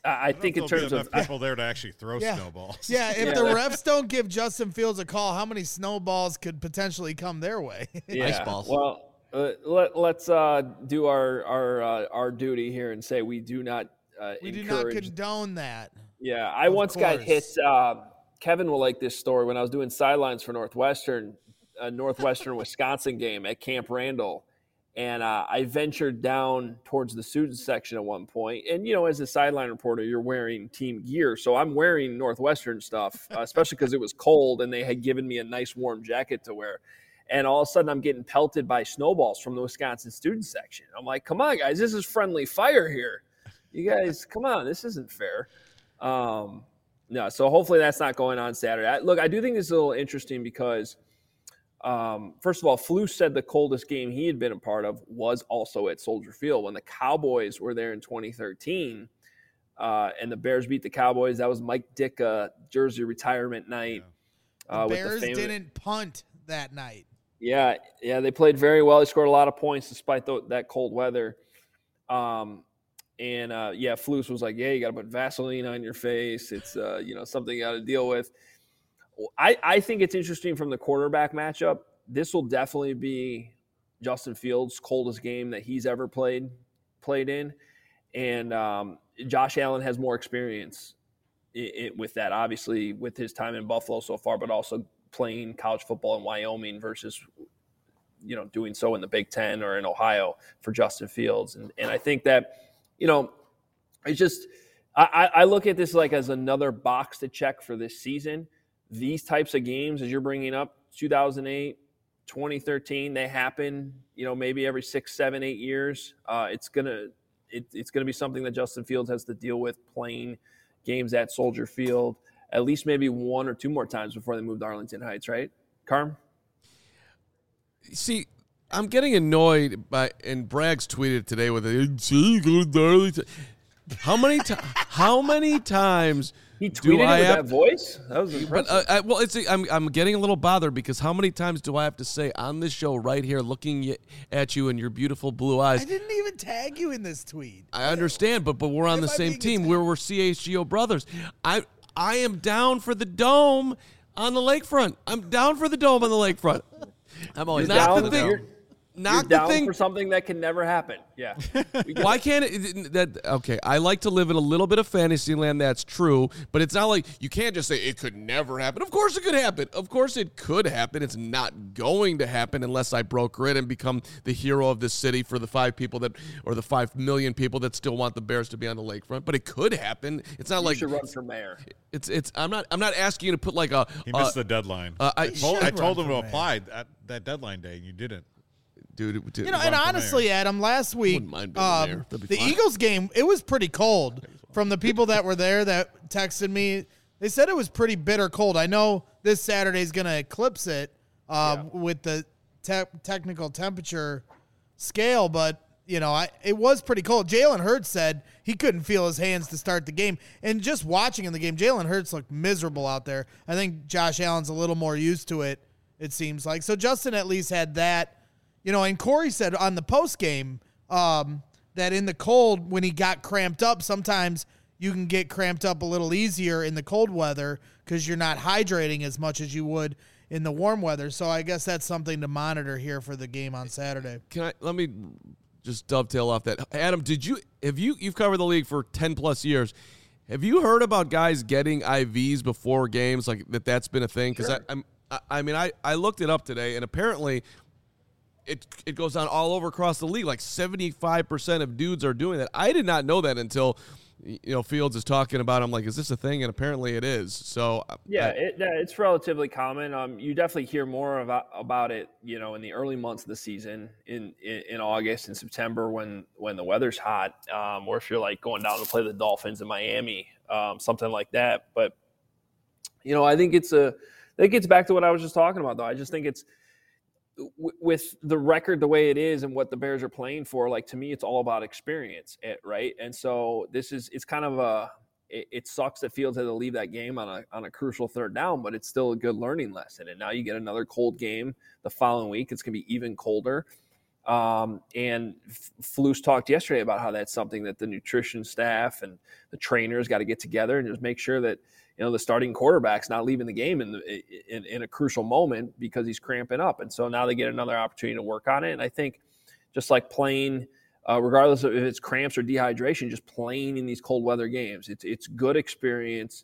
I think in terms of people there to actually throw snowballs. Yeah, if the refs don't give Justin Fields a call, how many snowballs could potentially come their way? Ice balls. Well, let's do our duty here and say we do not we do not condone that. Yeah, I once got hit. Kevin will like this story. When I was doing sidelines for Northwestern, a Northwestern Wisconsin game at Camp Randall. And I ventured down towards the student section at one point. And, as a sideline reporter, you're wearing team gear. So I'm wearing Northwestern stuff, especially because it was cold and they had given me a nice warm jacket to wear. And all of a sudden I'm getting pelted by snowballs from the Wisconsin student section. I'm like, come on, guys, this is friendly fire here. You guys, come on, this isn't fair. No, so hopefully that's not going on Saturday. I do think this is a little interesting because – first of all, Flus said the coldest game he had been a part of was also at Soldier Field when the Cowboys were there in 2013, and the Bears beat the Cowboys. That was Mike Ditka jersey retirement night. The Bears didn't punt that night. Yeah, they played very well. They scored a lot of points despite that cold weather. Flus was like, you got to put Vaseline on your face. It's something you got to deal with. I think it's interesting from the quarterback matchup. This will definitely be Justin Fields' coldest game that he's ever played in. And Josh Allen has more experience with that, obviously, with his time in Buffalo so far, but also playing college football in Wyoming versus, doing so in the Big Ten or in Ohio for Justin Fields. And I think that, it's just I look at this like as another box to check for this season. These types of games, as you're bringing up, 2008, 2013, they happen, maybe every 6, 7, 8 years. It's gonna be something that Justin Fields has to deal with playing games at Soldier Field at least maybe 1 or 2 more times before they move to Arlington Heights, right, Carm? See, I'm getting annoyed and Braggs tweeted today with it. See, go to Arlington. How many times? He tweeted it with that voice? That was impressive. But, I'm getting a little bothered because how many times do I have to say on this show right here looking at you and your beautiful blue eyes? I didn't even tag you in this tweet. I understand, but we're on the same team. We're CHGO brothers. I am down for the dome on the lakefront. I'm down for the dome on the lakefront. I'm always down for the dome. You're down for something that can never happen. Yeah. Why can't it? Okay, I like to live in a little bit of fantasy land. That's true, but it's not like you can't just say it could never happen. Of course it could happen. Of course it could happen. It's not going to happen unless I broker it and become the hero of this city for the 5 million people that still want the Bears to be on the lakefront. But it could happen. It's not like you should run for mayor. It's. I'm not asking you to put like a. He missed the deadline. I told him to apply at that deadline day, and you didn't. Dude, and honestly, Adam, last week, the Eagles game, it was pretty cold. From the people that were there that texted me, they said it was pretty bitter cold. I know this Saturday is going to eclipse it with the technical temperature scale, but, it was pretty cold. Jalen Hurts said he couldn't feel his hands to start the game. And just watching in the game, Jalen Hurts looked miserable out there. I think Josh Allen's a little more used to it, it seems like. So Justin at least had that. And Corey said on the post game that in the cold, when he got cramped up, sometimes you can get cramped up a little easier in the cold weather because you're not hydrating as much as you would in the warm weather. So I guess that's something to monitor here for the game on Saturday. Let me just dovetail off that. Adam, you've covered the league for 10 plus years. Have you heard about guys getting IVs before games, like that's been a thing? Because sure. I looked it up today, and apparently it goes on all over across the league. Like 75% of dudes are doing that. I did not know that until Fields is talking about it. I'm like, is this a thing? And apparently it is. So it's relatively common. You definitely hear more about it, in the early months of the season in August and September when the weather's hot, or if you're like going down to play the Dolphins in Miami, something like that. But I think it gets back to what I was just talking about, though. I just think it's with the record the way it is and what the Bears are playing for, like, to me, it's all about experience, right? And so it's kind of it sucks that Fields had to leave that game on a crucial third down, but it's still a good learning lesson. And now you get another cold game the following week. It's going to be even colder. And Flus talked yesterday about how that's something that the nutrition staff and the trainers got to get together and just make sure that, the starting quarterback's not leaving the game in a crucial moment because he's cramping up. And so now they get another opportunity to work on it. And I think just like playing, regardless of if it's cramps or dehydration, just playing in these cold weather games, it's good experience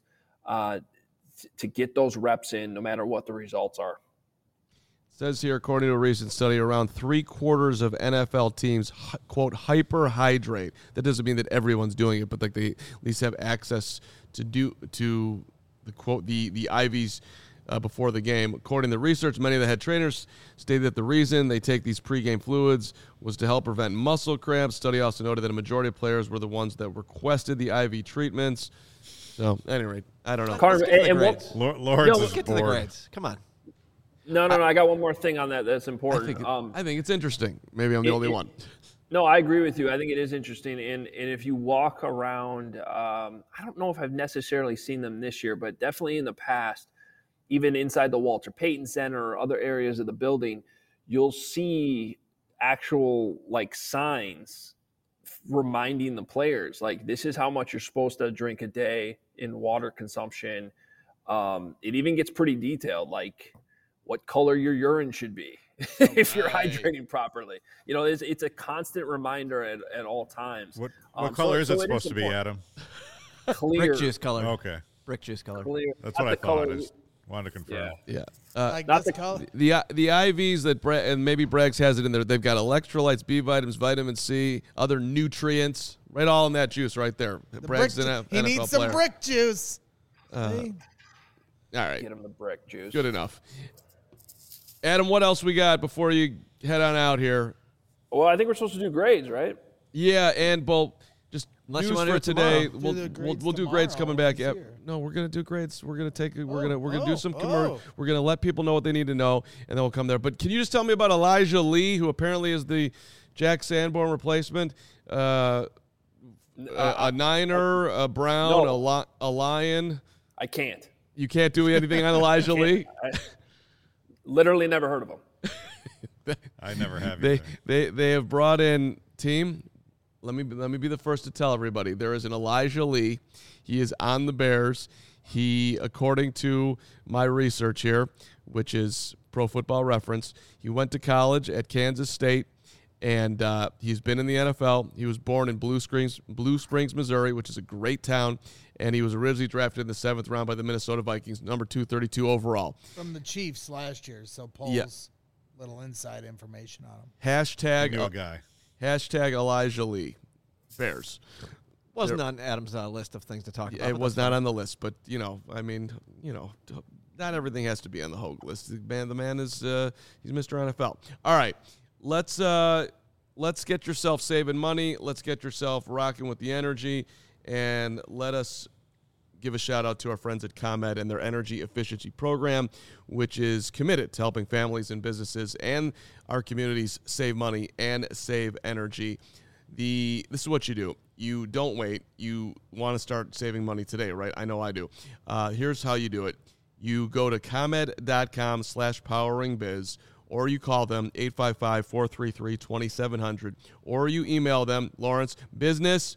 to get those reps in no matter what the results are. It says here, according to a recent study, around 3/4 of NFL teams, quote, hyperhydrate. That doesn't mean that everyone's doing it, but like they at least have access to the quote the IVs before the game. According to the research, many of the head trainers stated that the reason they take these pregame fluids was to help prevent muscle cramps. Study also noted that a majority of players were the ones that requested the IV treatments. So, at any rate, I don't know. Carter, Lawrence let's get to the grades. Come on. No. I got one more thing on that that's important. I think it's interesting. Maybe I'm the only one. No, I agree with you. I think it is interesting. And if you walk around, I don't know if I've necessarily seen them this year, but definitely in the past, even inside the Walter Payton Center or other areas of the building, you'll see actual signs reminding the players, this is how much you're supposed to drink a day in water consumption. It even gets pretty detailed, like what color your urine should be. If you're hydrating properly, it's a constant reminder at all times. What color is it supposed to be, Adam? Clear. Brick juice color. Okay. Brick juice color. Clear. That's what I thought. I just wanted to confirm. Yeah. Not the color. The IVs that and maybe Braggs has it in there. They've got electrolytes, B vitamins, vitamin C, other nutrients, right all in that juice right there. Braggs he needs some brick juice. All right. Get him the brick juice. Good enough. Adam, what else we got before you head on out here? Well, I think we're supposed to do grades, right? Yeah, and just Unless news you want for to do today. tomorrow. We'll do grades coming back. Tomorrow. No, we're gonna do grades. We're gonna take. We're gonna do some. We're gonna let people know what they need to know, and then we'll come there. But can you just tell me about Elijah Lee, who apparently is the Jack Sanborn replacement? A Niner, a Brown, a Lion. I can't. You can't do anything on Elijah Lee. Literally never heard of them. I never have. They have brought in team. Let me be the first to tell everybody. There is an Elijah Lee. He is on the Bears. He, according to my research here, which is Pro Football Reference, he went to college at Kansas State, and he's been in the NFL. He was born in Blue Springs, Missouri, which is a great town, and he was originally drafted in the 7th round by the Minnesota Vikings, number 232 overall. From the Chiefs last year, so Paul's little inside information on him. Hashtag Elijah Lee. Bears. Wasn't on Adam's list of things to talk about. It was not on the list, but, not everything has to be on the Hogue list. The man is he's Mr. NFL. All right, let's get yourself saving money. Let's get yourself rocking with the energy, and let us give a shout out to our friends at ComEd and their energy efficiency program, which is committed to helping families and businesses and our communities save money and save energy. This is what you do. You don't wait. You want to start saving money today, right? I know I do. Here's how you do it. You go to ComEd.com/poweringbiz, or you call them 855-433-2700, or you email them, Lawrence, business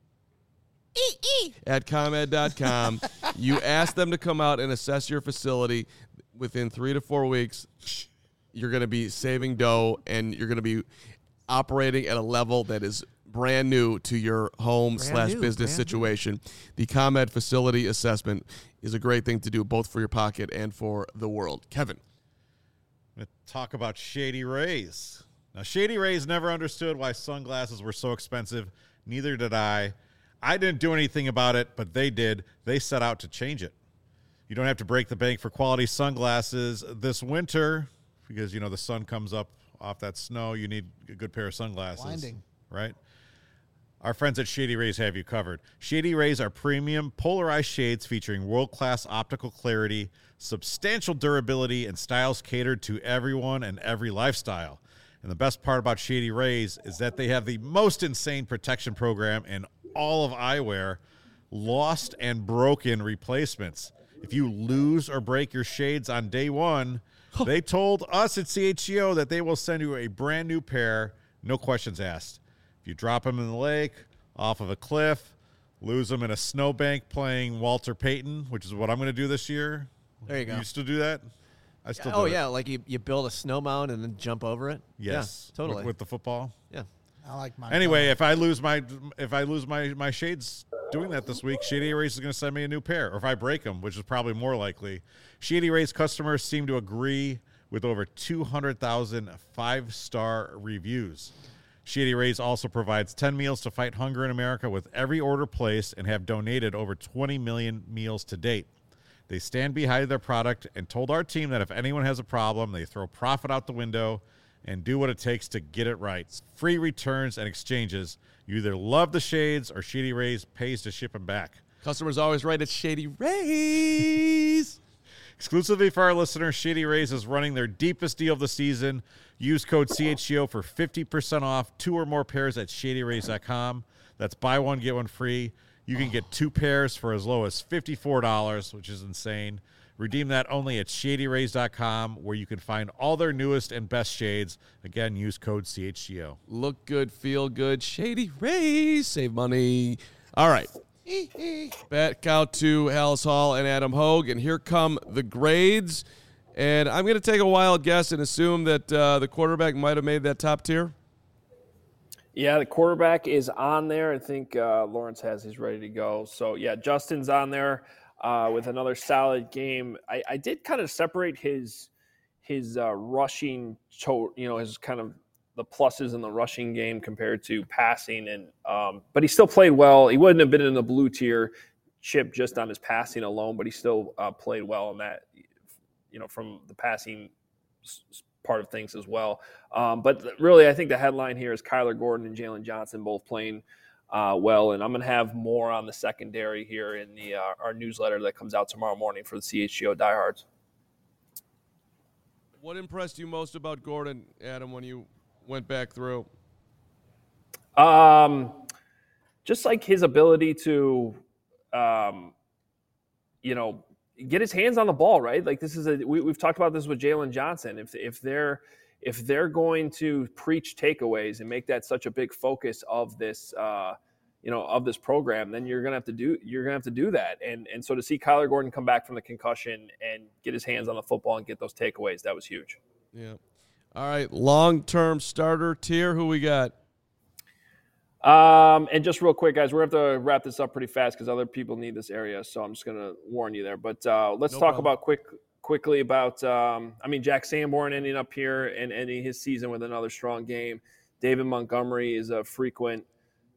at ComEd.com. You ask them to come out and assess your facility. Within 3 to 4 weeks, you're going to be saving dough, and you're going to be operating at a level that is brand new to your home/business situation. The ComEd facility assessment is a great thing to do, both for your pocket and for the world. Kevin. I'm going to talk about Shady Rays. Now, Shady Rays never understood why sunglasses were so expensive. Neither did I. I didn't do anything about it, but they did. They set out to change it. You don't have to break the bank for quality sunglasses this winter because, the sun comes up off that snow. You need a good pair of sunglasses. Blinding. Right? Our friends at Shady Rays have you covered. Shady Rays are premium polarized shades featuring world-class optical clarity, substantial durability, and styles catered to everyone and every lifestyle. And the best part about Shady Rays is that they have the most insane protection program in all of eyewear, lost and broken replacements. If you lose or break your shades on day one, They told us at CHGO that they will send you a brand new pair, no questions asked. If you drop them in the lake, off of a cliff, lose them in a snowbank playing Walter Payton, which is what I'm going to do this year. There you go. You still do that? I still do Oh, it. yeah, like you build a snow mound and then jump over it? Yes. Yeah, totally. With the football? Yeah. I like mine. Anyway, if I lose my shades doing that this week, Shady Rays is going to send me a new pair. Or if I break them, which is probably more likely. Shady Rays customers seem to agree with over 200,000 5-star reviews. Shady Rays also provides 10 meals to fight hunger in America with every order placed and have donated over 20 million meals to date. They stand behind their product and told our team that if anyone has a problem, they throw profit out the window and do what it takes to get it right. Free returns and exchanges. You either love the shades or Shady Rays pays to ship them back. Customers always right at Shady Rays. Exclusively for our listeners, Shady Rays is running their deepest deal of the season. Use code CHGO for 50% off 2 or more pairs at ShadyRays.com. That's buy one, get one free. You can get 2 pairs for as low as $54, which is insane. Redeem that only at ShadyRays.com, where you can find all their newest and best shades. Again, use code CHGO. Look good, feel good. Shady Rays. Save money. All right. Back out to Halas Hall and Adam Hogue, and here come the grades. And I'm going to take a wild guess and assume that the quarterback might have made that top tier. Yeah, the quarterback is on there. I think Lawrence has his ready to go. So, yeah, Justin's on there with another solid game. I did kind of separate his rushing, his kind of the pluses in the rushing game compared to passing. And but he still played well. He wouldn't have been in the blue tier chip just on his passing alone, but he still played well in that, from the passing part of things as well. But really, I think the headline here is Kyler Gordon and Jalen Johnson both playing well. And I'm going to have more on the secondary here in the our newsletter that comes out tomorrow morning for the CHGO diehards. What impressed you most about Gordon, Adam, when you went back through? Just like his ability to, get his hands on the ball, right? Like this is we've talked about this with Jalen Johnson. If they're going to preach takeaways and make that such a big focus of this, of this program, then you're gonna have to do that. And so to see Kyler Gordon come back from the concussion and get his hands on the football and get those takeaways, that was huge. Yeah. All right, long-term starter tier. Who we got? And just real quick, guys, we're going to have to wrap this up pretty fast because other people need this area. So I'm just going to warn you there. But let's talk about quickly about, Jack Sanborn ending up here and ending his season with another strong game. David Montgomery is a frequent,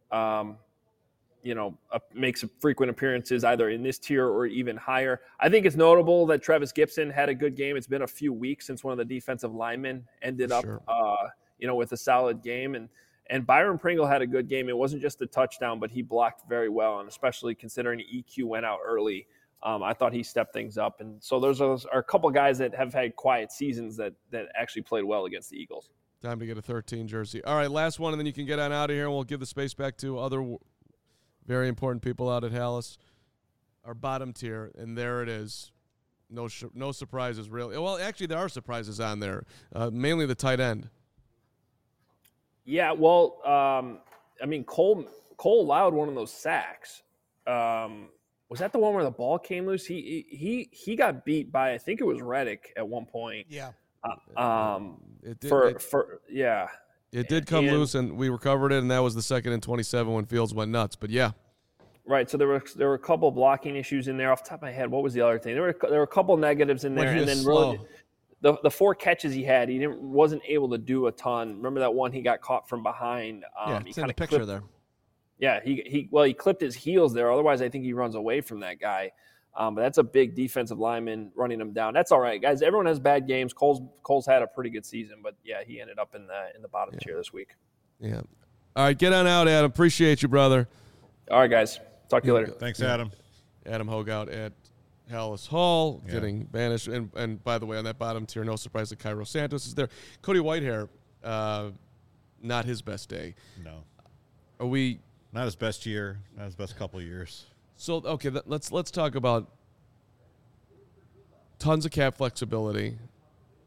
makes frequent appearances either in this tier or even higher. I think it's notable that Travis Gibson had a good game. It's been a few weeks since one of the defensive linemen ended up, with a solid game. And Byron Pringle had a good game. It wasn't just a touchdown, but he blocked very well, and especially considering EQ went out early, I thought he stepped things up. And so those are a couple guys that have had quiet seasons that actually played well against the Eagles. Time to get a 13 jersey. All right, last one, and then you can get on out of here, and we'll give the space back to other very important people out at Halas. Our bottom tier, and there it is. No surprises, really. Well, actually, there are surprises on there, mainly the tight end. Yeah, well, Cole allowed one of those sacks. Was that the one where the ball came loose? He got beat by, I think it was Reddick at one point. Yeah. It did come loose, and we recovered it, and that was the 2nd and 27 when Fields went nuts. But yeah. Right. So there were a couple blocking issues in there. Off the top of my head, what was the other thing? There were a couple negatives in there, and then really. The 4 catches he had, he wasn't able to do a ton. Remember that one he got caught from behind? It's in the picture there. Yeah, he clipped his heels there. Otherwise, I think he runs away from that guy. But that's a big defensive lineman running him down. That's all right, guys. Everyone has bad games. Cole's had a pretty good season, but yeah, he ended up in the bottom tier this week. Yeah. All right, get on out, Adam. Appreciate you, brother. All right, guys. Talk to you later. Thanks, Adam. Adam Hogue out at Halas Hall, getting banished. And by the way, on that bottom tier, no surprise that Cairo Santos is there. Cody Whitehair, not his best day. No. Are we... Not his best year. Not his best couple of years. So, okay, let's talk about tons of cap flexibility.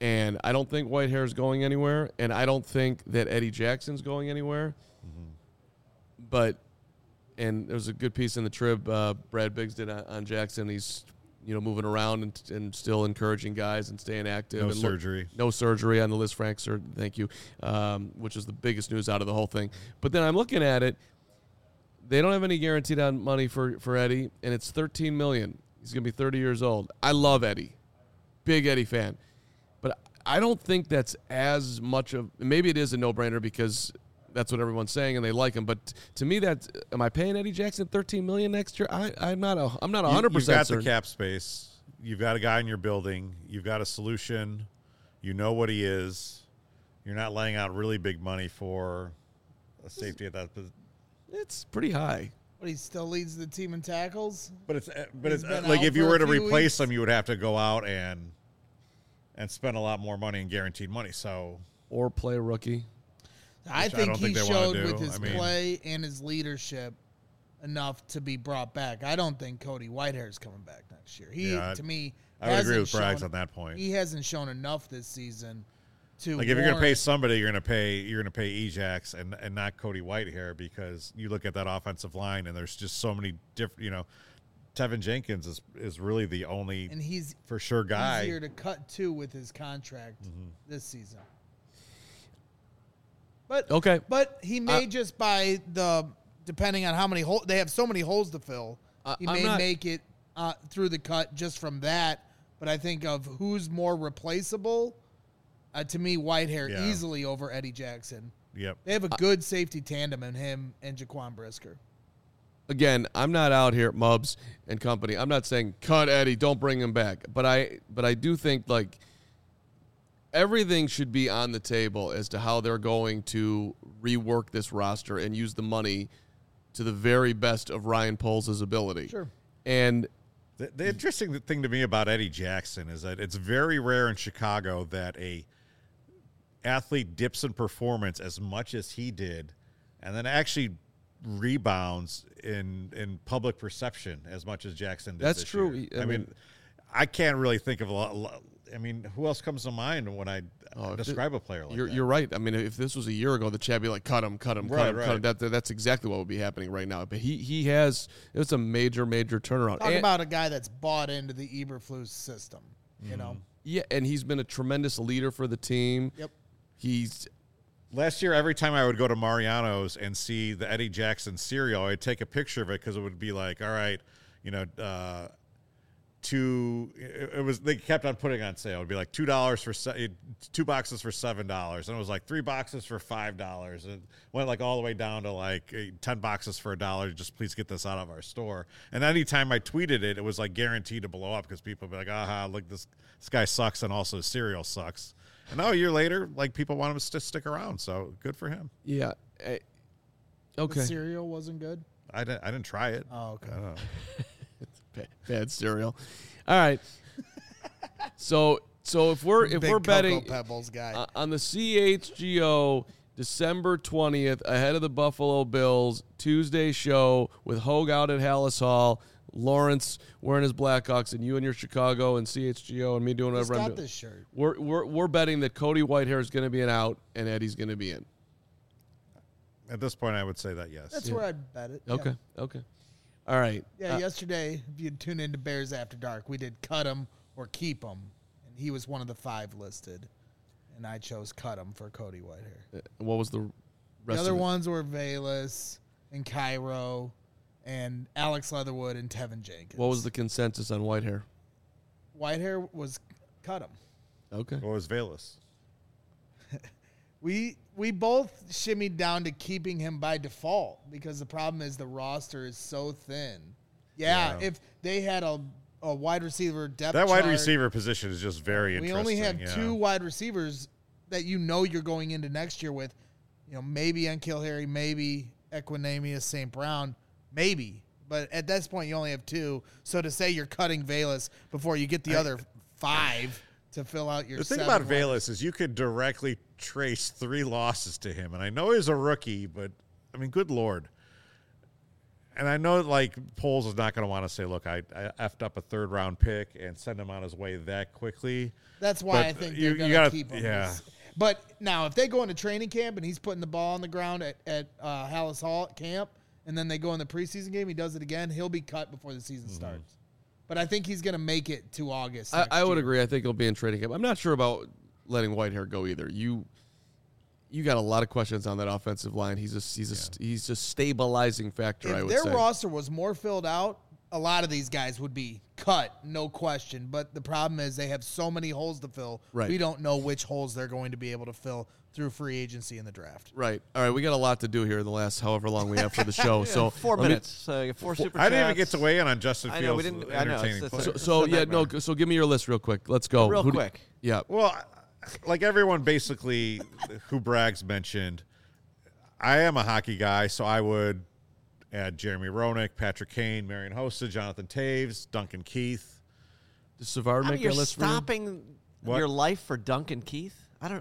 And I don't think Whitehair is going anywhere, and I don't think that Eddie Jackson's going anywhere. But, and there was a good piece in the Trib Brad Biggs did on Jackson. He's, moving around and still encouraging guys and staying active. No and surgery. No surgery on the Liz Frank surgery. Thank you, which is the biggest news out of the whole thing. But then I'm looking at it. They don't have any guaranteed on money for Eddie, and it's $13 million. He's going to be 30 years old. I love Eddie. Big Eddie fan. But I don't think that's as much of – maybe it is a no-brainer because that's what everyone's saying and they like him. But to me, am I paying Eddie Jackson $13 million next year? I'm not 100% You've got certain. the cap space. You've got a guy in your building. You've got a solution. You know what he is. You're not laying out really big money for a safety at that position. It's pretty high. But he still leads the team in tackles. But it's been like out if you for were a to few replace weeks. him, you would have to go out and spend a lot more money in guaranteed money. So Or play a rookie. I Which I think don't he think they wanna showed do. with his I mean- play and his leadership enough to be brought back. I don't think Cody Whitehair is coming back next year. To me, I would agree hasn't with Braggs shown- on that point. He hasn't shown enough this season to Like if you're going to pay warrant- somebody, you're going to pay Ejax and not Cody Whitehair, because you look at that offensive line and there's just so many different. Tevin Jenkins is really the only and he's for sure guy. easier to cut to with his contract this season. But Okay. but he may just by depending on how many holes they have, so many holes to fill. He I'm may not- make it through the cut just from that. But I think of who's more replaceable. To me, Whitehair Yeah. easily over Eddie Jackson. Yep. They have a good safety tandem in him and Jaquan Brisker. Again, I'm not out here, Mubs and company. I'm not saying cut Eddie, don't bring him back. But I do think like everything should be on the table as to how they're going to rework this roster and use the money to the very best of Ryan Poles' ability. Sure. And The interesting thing to me about Eddie Jackson is that it's very rare in Chicago that a athlete dips in performance as much as he did, and then actually rebounds in public perception as much as Jackson did. That's this true. year. I I mean- mean, I can't really think of a lot. I mean, who else comes to mind when I describe a player like that? you're right. I mean, if this was a year ago, the Chad would be like, cut him. That's exactly what would be happening right now. But it's a major turnaround. Talk And- about a guy that's bought into the Eberflus system. You know. Yeah, and he's been a tremendous leader for the team. Yep. He's Last year, every time I would go to Mariano's and see the Eddie Jackson cereal, I'd take a picture of it because it would be like, all right, they kept on putting on sale. It would be like $2 for 2 boxes for $7, and it was like 3 boxes for $5, and went like all the way down to like 10 boxes for $1. Just please get this out of our store. And anytime I tweeted it, it was like guaranteed to blow up because people would be like, aha, look, this guy sucks, and also his cereal sucks. And now a year later, like people want him to stick around, so good for him. yeah. Okay. The cereal wasn't good. I didn't try it. Oh, okay. I don't know. Bad cereal. All right. So if we're Big betting Cocoa Pebbles guy. on the CHGO December 20th ahead of the Buffalo Bills Tuesday show with Hogue out at Hallis Hall, Lawrence wearing his Blackhawks, and you and your Chicago and CHGO and me doing Just whatever I'm got doing. this shirt. We're betting that Cody Whitehair is going to be an out and Eddie's going to be in. At this point, I would say that yes. That's where I'd bet it. Yeah. Okay. All right. Yeah, yesterday, if you'd tune into Bears After Dark, we did cut him or keep him, and he was one of the 5 listed, and I chose cut him for Cody Whitehair. What was the The rest other of it? ones were Valus and Cairo and Alex Leatherwood and Tevin Jenkins. What was the consensus on Whitehair? Whitehair was cut him. Okay. What was Valus? We both shimmied down to keeping him by default because the problem is the roster is so thin. Yeah. If they had a wide receiver depth That wide chart, receiver position is just very we interesting. only have yeah. 2 wide receivers that you're going into next year with. Maybe N'Keal Harry, maybe Equinemius St. Brown, maybe. But at this point, you only have 2. So to say you're cutting Valus before you get the other 5 to fill out your The thing 7 about wide- Valus is you could directly trace 3 losses to him. And I know he's a rookie, but, I mean, good Lord. And I know, like, Poles is not going to want to say, look, I effed up a third-round pick and send him on his way that quickly. That's why I think they're going to keep him. Yeah. But now, if they go into training camp and he's putting the ball on the ground at Hallis Hall at camp, and then they go in the preseason game, he does it again, he'll be cut before the season starts. But I think he's going to make it to August. I would agree. I think he'll be in training camp. I'm not sure about letting Whitehair go either. You got a lot of questions on that offensive line. He's a stabilizing factor, I would say. If their roster was more filled out, a lot of these guys would be cut, no question. But the problem is they have so many holes to fill. Right. We don't know which holes they're going to be able to fill through free agency in the draft. Right. All right, we got a lot to do here in the last however long we have for the show. So 4 minutes. So 4 super chats. I didn't even get to weigh in on Justin Fields. I know, we didn't. I know. Entertaining play. So give me your list real quick. Let's go. Real quick. Yeah. Well, like everyone basically who Braggs mentioned, I am a hockey guy, so I would add Jeremy Roenick, Patrick Kane, Marian Hossa, Jonathan Taves, Duncan Keith. Does Savard make you're that list for you? stopping your life for Duncan Keith?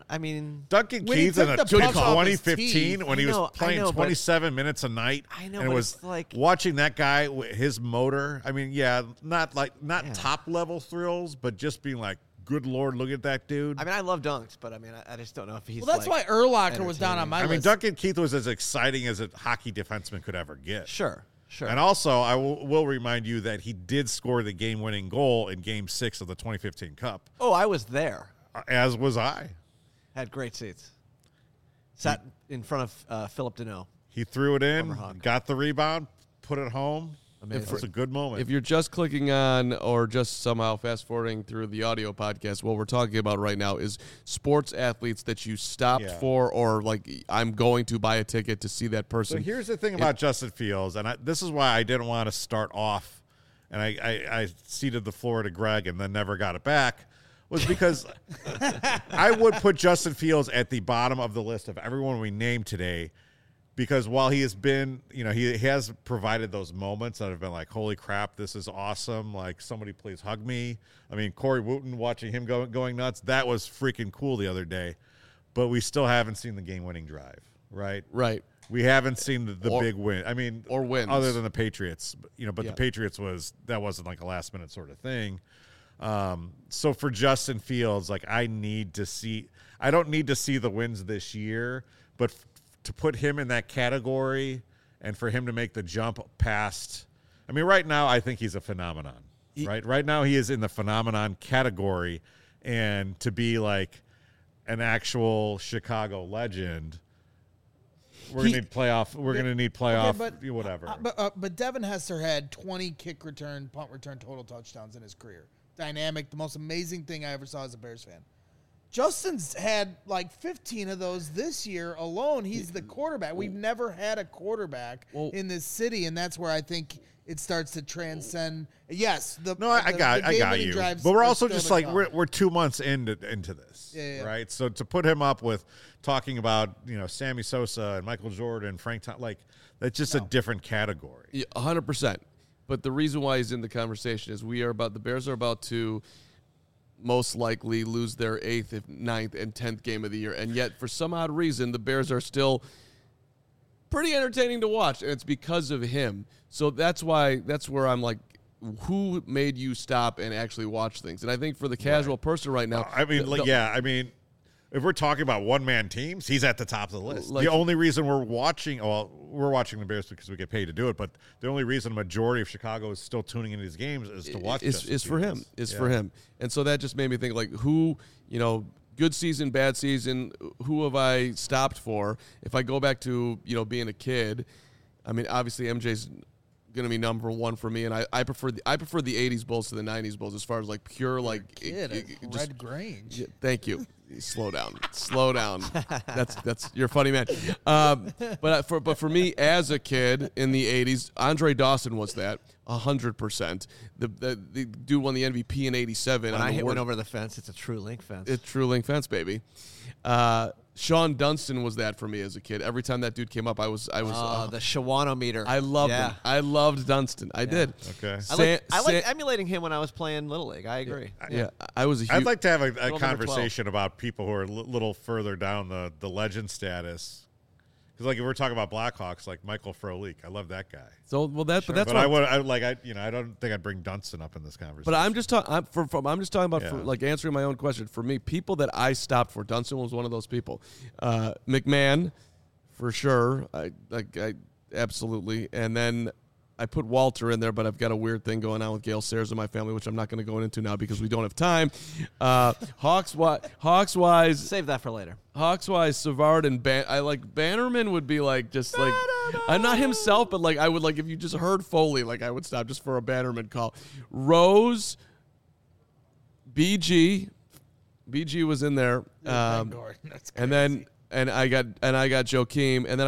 Duncan When he Keith in took the puck off his 2015 teeth. when he was playing but 27 minutes a night. I know, and it but was it's like watching that guy, his motor. I mean, not top level thrills, but just being like, good Lord, look at that dude. I love dunks, but I just don't know if he's. Well, that's why Urlacher was down on my list. Duncan Keith was as exciting as a hockey defenseman could ever get. Sure. And also, I will remind you that he did score the game-winning goal in Game 6 of the 2015 Cup. Oh, I was there. As was I. Had great seats. Sat in front of Philip Deneau. He threw it in, Hawk. got the rebound, put it home. Amazing. It was a good moment. If you're just clicking on or just somehow fast forwarding through the audio podcast, what we're talking about right now is sports athletes that you stopped for, or like, I'm going to buy a ticket to see that person. So here's the thing about Justin Fields, and this is why I didn't want to start off, and I ceded the floor to Greg and then never got it back, was because I would put Justin Fields at the bottom of the list of everyone we named today. Because while he has been, he has provided those moments that have been like, holy crap, this is awesome. Like, somebody please hug me. I mean, Corey Wooten, watching him going nuts, that was freaking cool the other day. But we still haven't seen the game-winning drive, right? Right. We haven't seen the big win. I mean, or wins. Other than the Patriots, but the Patriots wasn't like a last-minute sort of thing. So for Justin Fields, like, I don't need to see the wins this year, but to put him in that category and for him to make the jump past, I mean, right now I think he's a phenomenon, right? Right now he is in the phenomenon category, and to be like an actual Chicago legend, we're going to need playoff. We're going to need playoff, whatever. But Devin Hester had 20 kick return, punt return, total touchdowns in his career. Dynamic, the most amazing thing I ever saw as a Bears fan. Justin's had like 15 of those this year alone. He's the quarterback. We've never had a quarterback in this city, and that's where I think it starts to transcend. Yes, I got you. But we're also just like we're 2 months into this, right? So to put him up with talking about Sammy Sosa and Michael Jordan, Frank, like that's just a different category. 100%. But the reason why he's in the conversation is the Bears are about to most likely lose their 8th, 9th, and 10th game of the year. And yet, for some odd reason, the Bears are still pretty entertaining to watch, and it's because of him. So that's where I'm like, who made you stop and actually watch things? And I think for the casual person right now, if we're talking about one-man teams, he's at the top of the list. The only reason we're watching the Bears because we get paid to do it, but the only reason a majority of Chicago is still tuning into these games is to watch is for him. For him. And so that just made me think, like, who, good season, bad season, who have I stopped for? If I go back to, being a kid, I mean, obviously MJ's going to be number one for me, and I prefer the 80s Bulls to the 90s Bulls as far as like pure Red Grange. Yeah, thank you. Slow down. That's you're a funny man. But for me as a kid in the 80s, Andre Dawson was that 100%. The dude won the MVP in '87. When I went over the fence, it's a true link fence. It's true link fence, baby. Sean Dunston was that for me as a kid. Every time that dude came up, I was the Shawano-meter. I loved him. I loved Dunston. I did. Okay. I like emulating him when I was playing Little League. I agree. I was. I'd like to have a conversation about people who are a little further down the legend status, Because like if we're talking about Blackhawks, like Michael Frolik, I love that guy. So but that's But what I don't think I'd bring Dunston up in this conversation. But I'm just talking. I'm just talking about Yeah. for, like answering my own question. For me, people that I stopped for, Dunston was one of those people. McMahon, for sure. I absolutely. And then I put Walter in there, but I've got a weird thing going on with Gale Sayers in my family, which I'm not going to go into now because we don't have time. Hawks wise, Save that for later. Hawks wise, Savard and Bannerman would be like just like I'm not himself, but like I would like if you just heard Foley, like I would stop just for a Bannerman call. Rose, BG was in there, Gordon, that's crazy. and then I got Joakim, and then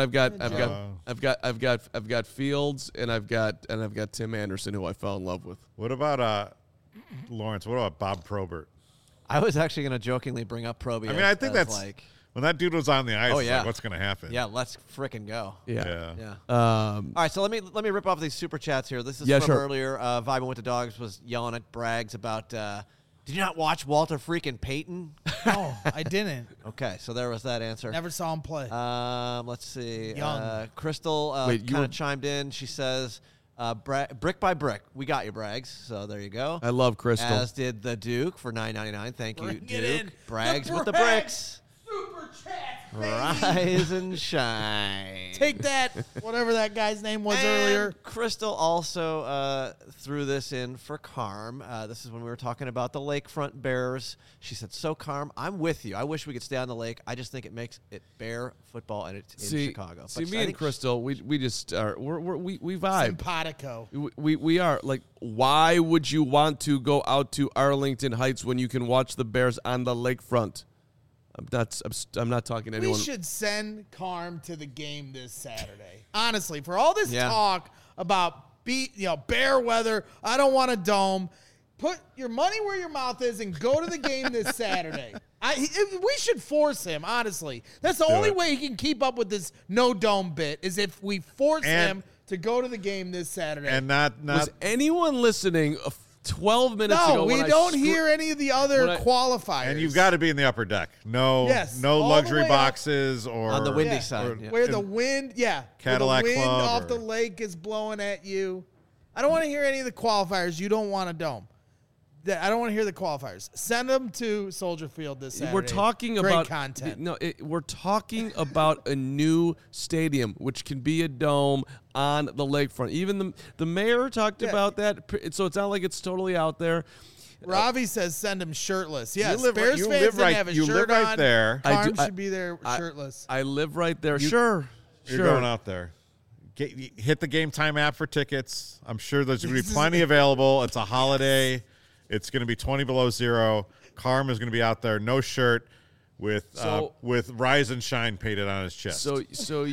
I've got Fields, and I've got Tim Anderson, who I fell in love with. what about Lawrence? What about Bob Probert? I was actually going to jokingly bring up Proby. I mean, I think that's like, when that dude was on the ice. Oh, it's yeah. like, what's going to happen? yeah, let's frickin' go. Yeah. Yeah. Um, All right, so let me rip off these super chats here. This is Yeah, from sure. earlier. Vibing with the Dogs was yelling at Braggs about, did you not watch Walter freaking Payton? No, I didn't. Okay, so there was that answer. Never saw him play. Let's see. Young. Crystal Wait, you kind were- of chimed in. She says, brick by brick. We got you, Braggs. So there you go. I love Crystal. As did the Duke for $9.99. Thank you, Bring it Duke. in. Braggs The with the Braggs. bricks. Super chat. Rise and shine. Take that, whatever that guy's name was And earlier. Crystal also threw this in for Carm. This is when we were talking about the Lakefront Bears. She said, "So Carm, I'm with you. I wish we could stay on the lake. I just think it makes it Bear football, and it's in Chicago." See, But me I and think Crystal, we just are we vibe. Simpatico. We are like, why would you want to go out to Arlington Heights when you can watch the Bears on the lakefront? I'm not talking to anyone. We should send Carm to the game this Saturday. Honestly, for all this Yeah. talk about bear weather, I don't want a dome. Put your money where your mouth is and go to the game this Saturday. We should force him, honestly. That's the only it. way he can keep up with this no dome bit is if we force And- him to go to the game this Saturday. And not Was anyone listening 12 minutes ago? no, we when I don't scr- hear any of the other when I- qualifiers. and you've got to be in the upper deck. No, Yes, no all the luxury way up. boxes or on the windy Yeah. side. or- yeah. where the wind, Cadillac where the wind Club off or- the lake is blowing at you. I don't want to hear any of the qualifiers. You don't want a dome. I don't want to hear the qualifiers. Send them to Soldier Field this Saturday. We're talking Great about content. we're talking about a new stadium, which can be a dome on the lakefront. Even the mayor talked Yeah. about that, so it's not like it's totally out there. Ravi says send him shirtless. Yes, live right- Bears you fans live didn't right- have a you shirt live right on. there. I Carm do- I- should be there shirtless. I live right there. Sure. You're going out there. Hit the Game Time app for tickets. I'm sure there's going to be plenty available. It's a holiday. It's going to be 20 below zero. Carm is going to be out there, no shirt, with Rise and Shine painted on his chest. So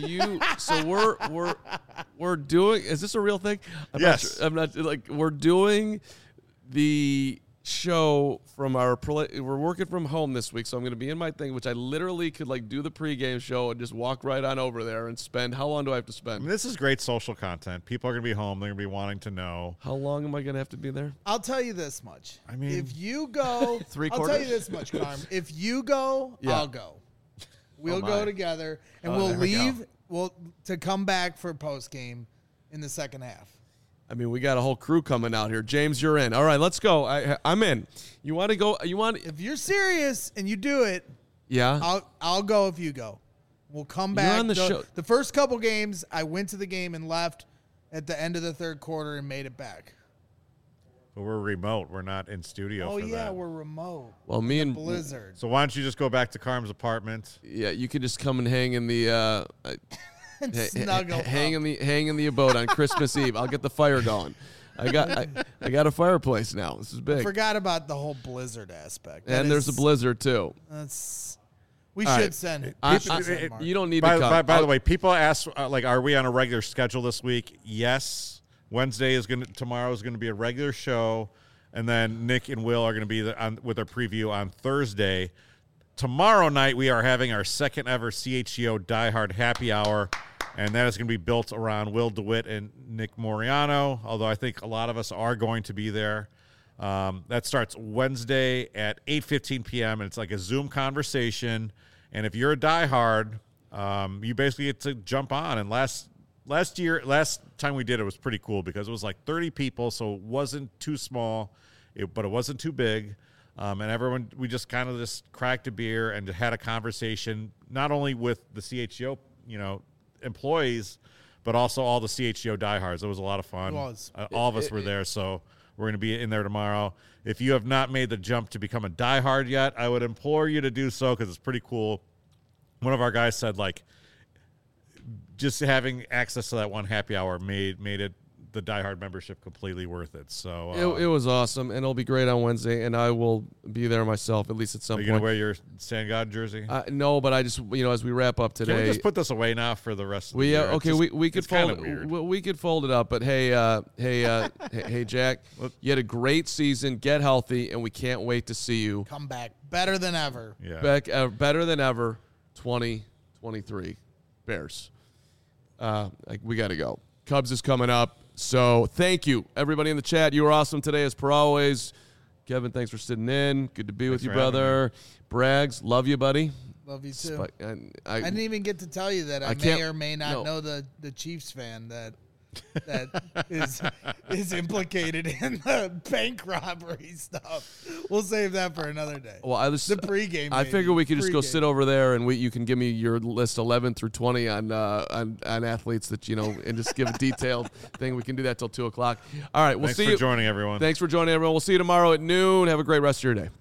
we're doing. Is this a real thing? Yes. I'm not like we're doing the show from we're working from home this week, so I'm going to be in my thing, which I literally could like do the pregame show and just walk right on over there and spend. How long do I have to I spend? mean, this is great social content. People are going to be home. They're going to be wanting to know. How long am I going to have to be there? I'll tell you this much. I mean- if you go, Three I'll tell quarters? you this much, Carm. If you go, Yeah. I'll go. We'll Oh, my. go together, and Oh, we'll there we go. leave. To come back for post game in the second half. I mean, we got a whole crew coming out here. James, you're in. All right, let's go. I'm in. You want to go? You want? If you're serious and you do it, Yeah. I'll go if you go. We'll come You're back. on the show. The first couple games, I went to the game and left at the end of the third quarter and made it back. But we're remote. We're not in studio Oh for yeah, that. we're remote. Well, me and Blizzard. So why don't you just go back to Carm's apartment? yeah, you could just come and hang in the And snuggle. hang up. in the abode on Christmas Eve. I'll get the fire going. I got a fireplace now. This is big. Forgot about the whole Blizzard aspect. That And there's a is- blizzard too. We All should right. send. I- we should send Mark. You don't need By, to come. by, by I'll- the way, people ask are we on a regular schedule this week? Yes. Tomorrow is gonna be a regular show, and then Nick and Will are gonna be with our preview on Thursday. Tomorrow night we are having our second ever CHGO Die Hard Happy Hour, and that is going to be built around Will DeWitt and Nick Moriano, although I think a lot of us are going to be there. That starts Wednesday at 8:15 p.m., and it's like a Zoom conversation. And if you're a diehard, you basically get to jump on. And last time we did it was pretty cool because it was like 30 people, so it wasn't too small, but it wasn't too big. And everyone, we just kind of just cracked a beer and had a conversation, not only with the CHGO, employees, but also all the CHGO diehards. It was a lot of fun. It was. All of us were there, so we're going to be in there tomorrow. If you have not made the jump to become a diehard yet, I would implore you to do so because it's pretty cool. One of our guys said, like, just having access to that one happy hour made it the diehard membership completely worth it. So it was awesome, and it'll be great on Wednesday, and I will be there myself at least at some point. Are you gonna wear your Sand God jersey? No, but I just as we wrap up today, can we just put this away now for the rest of the year? Okay, we could fold it. We could fold it up, but hey, hey, Jack, you had a great season. Get healthy, and we can't wait to see you come back better than ever. Yeah, better than ever. 2023 Bears. We got to go. Cubs is coming up. So thank you, everybody in the chat. You were awesome today, as per always. Kevin, thanks for sitting in. Good to be with you, brother. Braggs, love you, buddy. Love you, too. I didn't even get to tell you that I may or may not know the Chiefs fan that is implicated in the bank robbery stuff. We'll save that for another day. Well, the pregame. I figure we could just go sit over there and you can give me your list 11 through 20 on athletes that and just give a detailed thing. We can do that till 2:00. All right, we'll see you. Thanks for joining, everyone. Thanks for joining, everyone. We'll see you tomorrow at noon. Have a great rest of your day.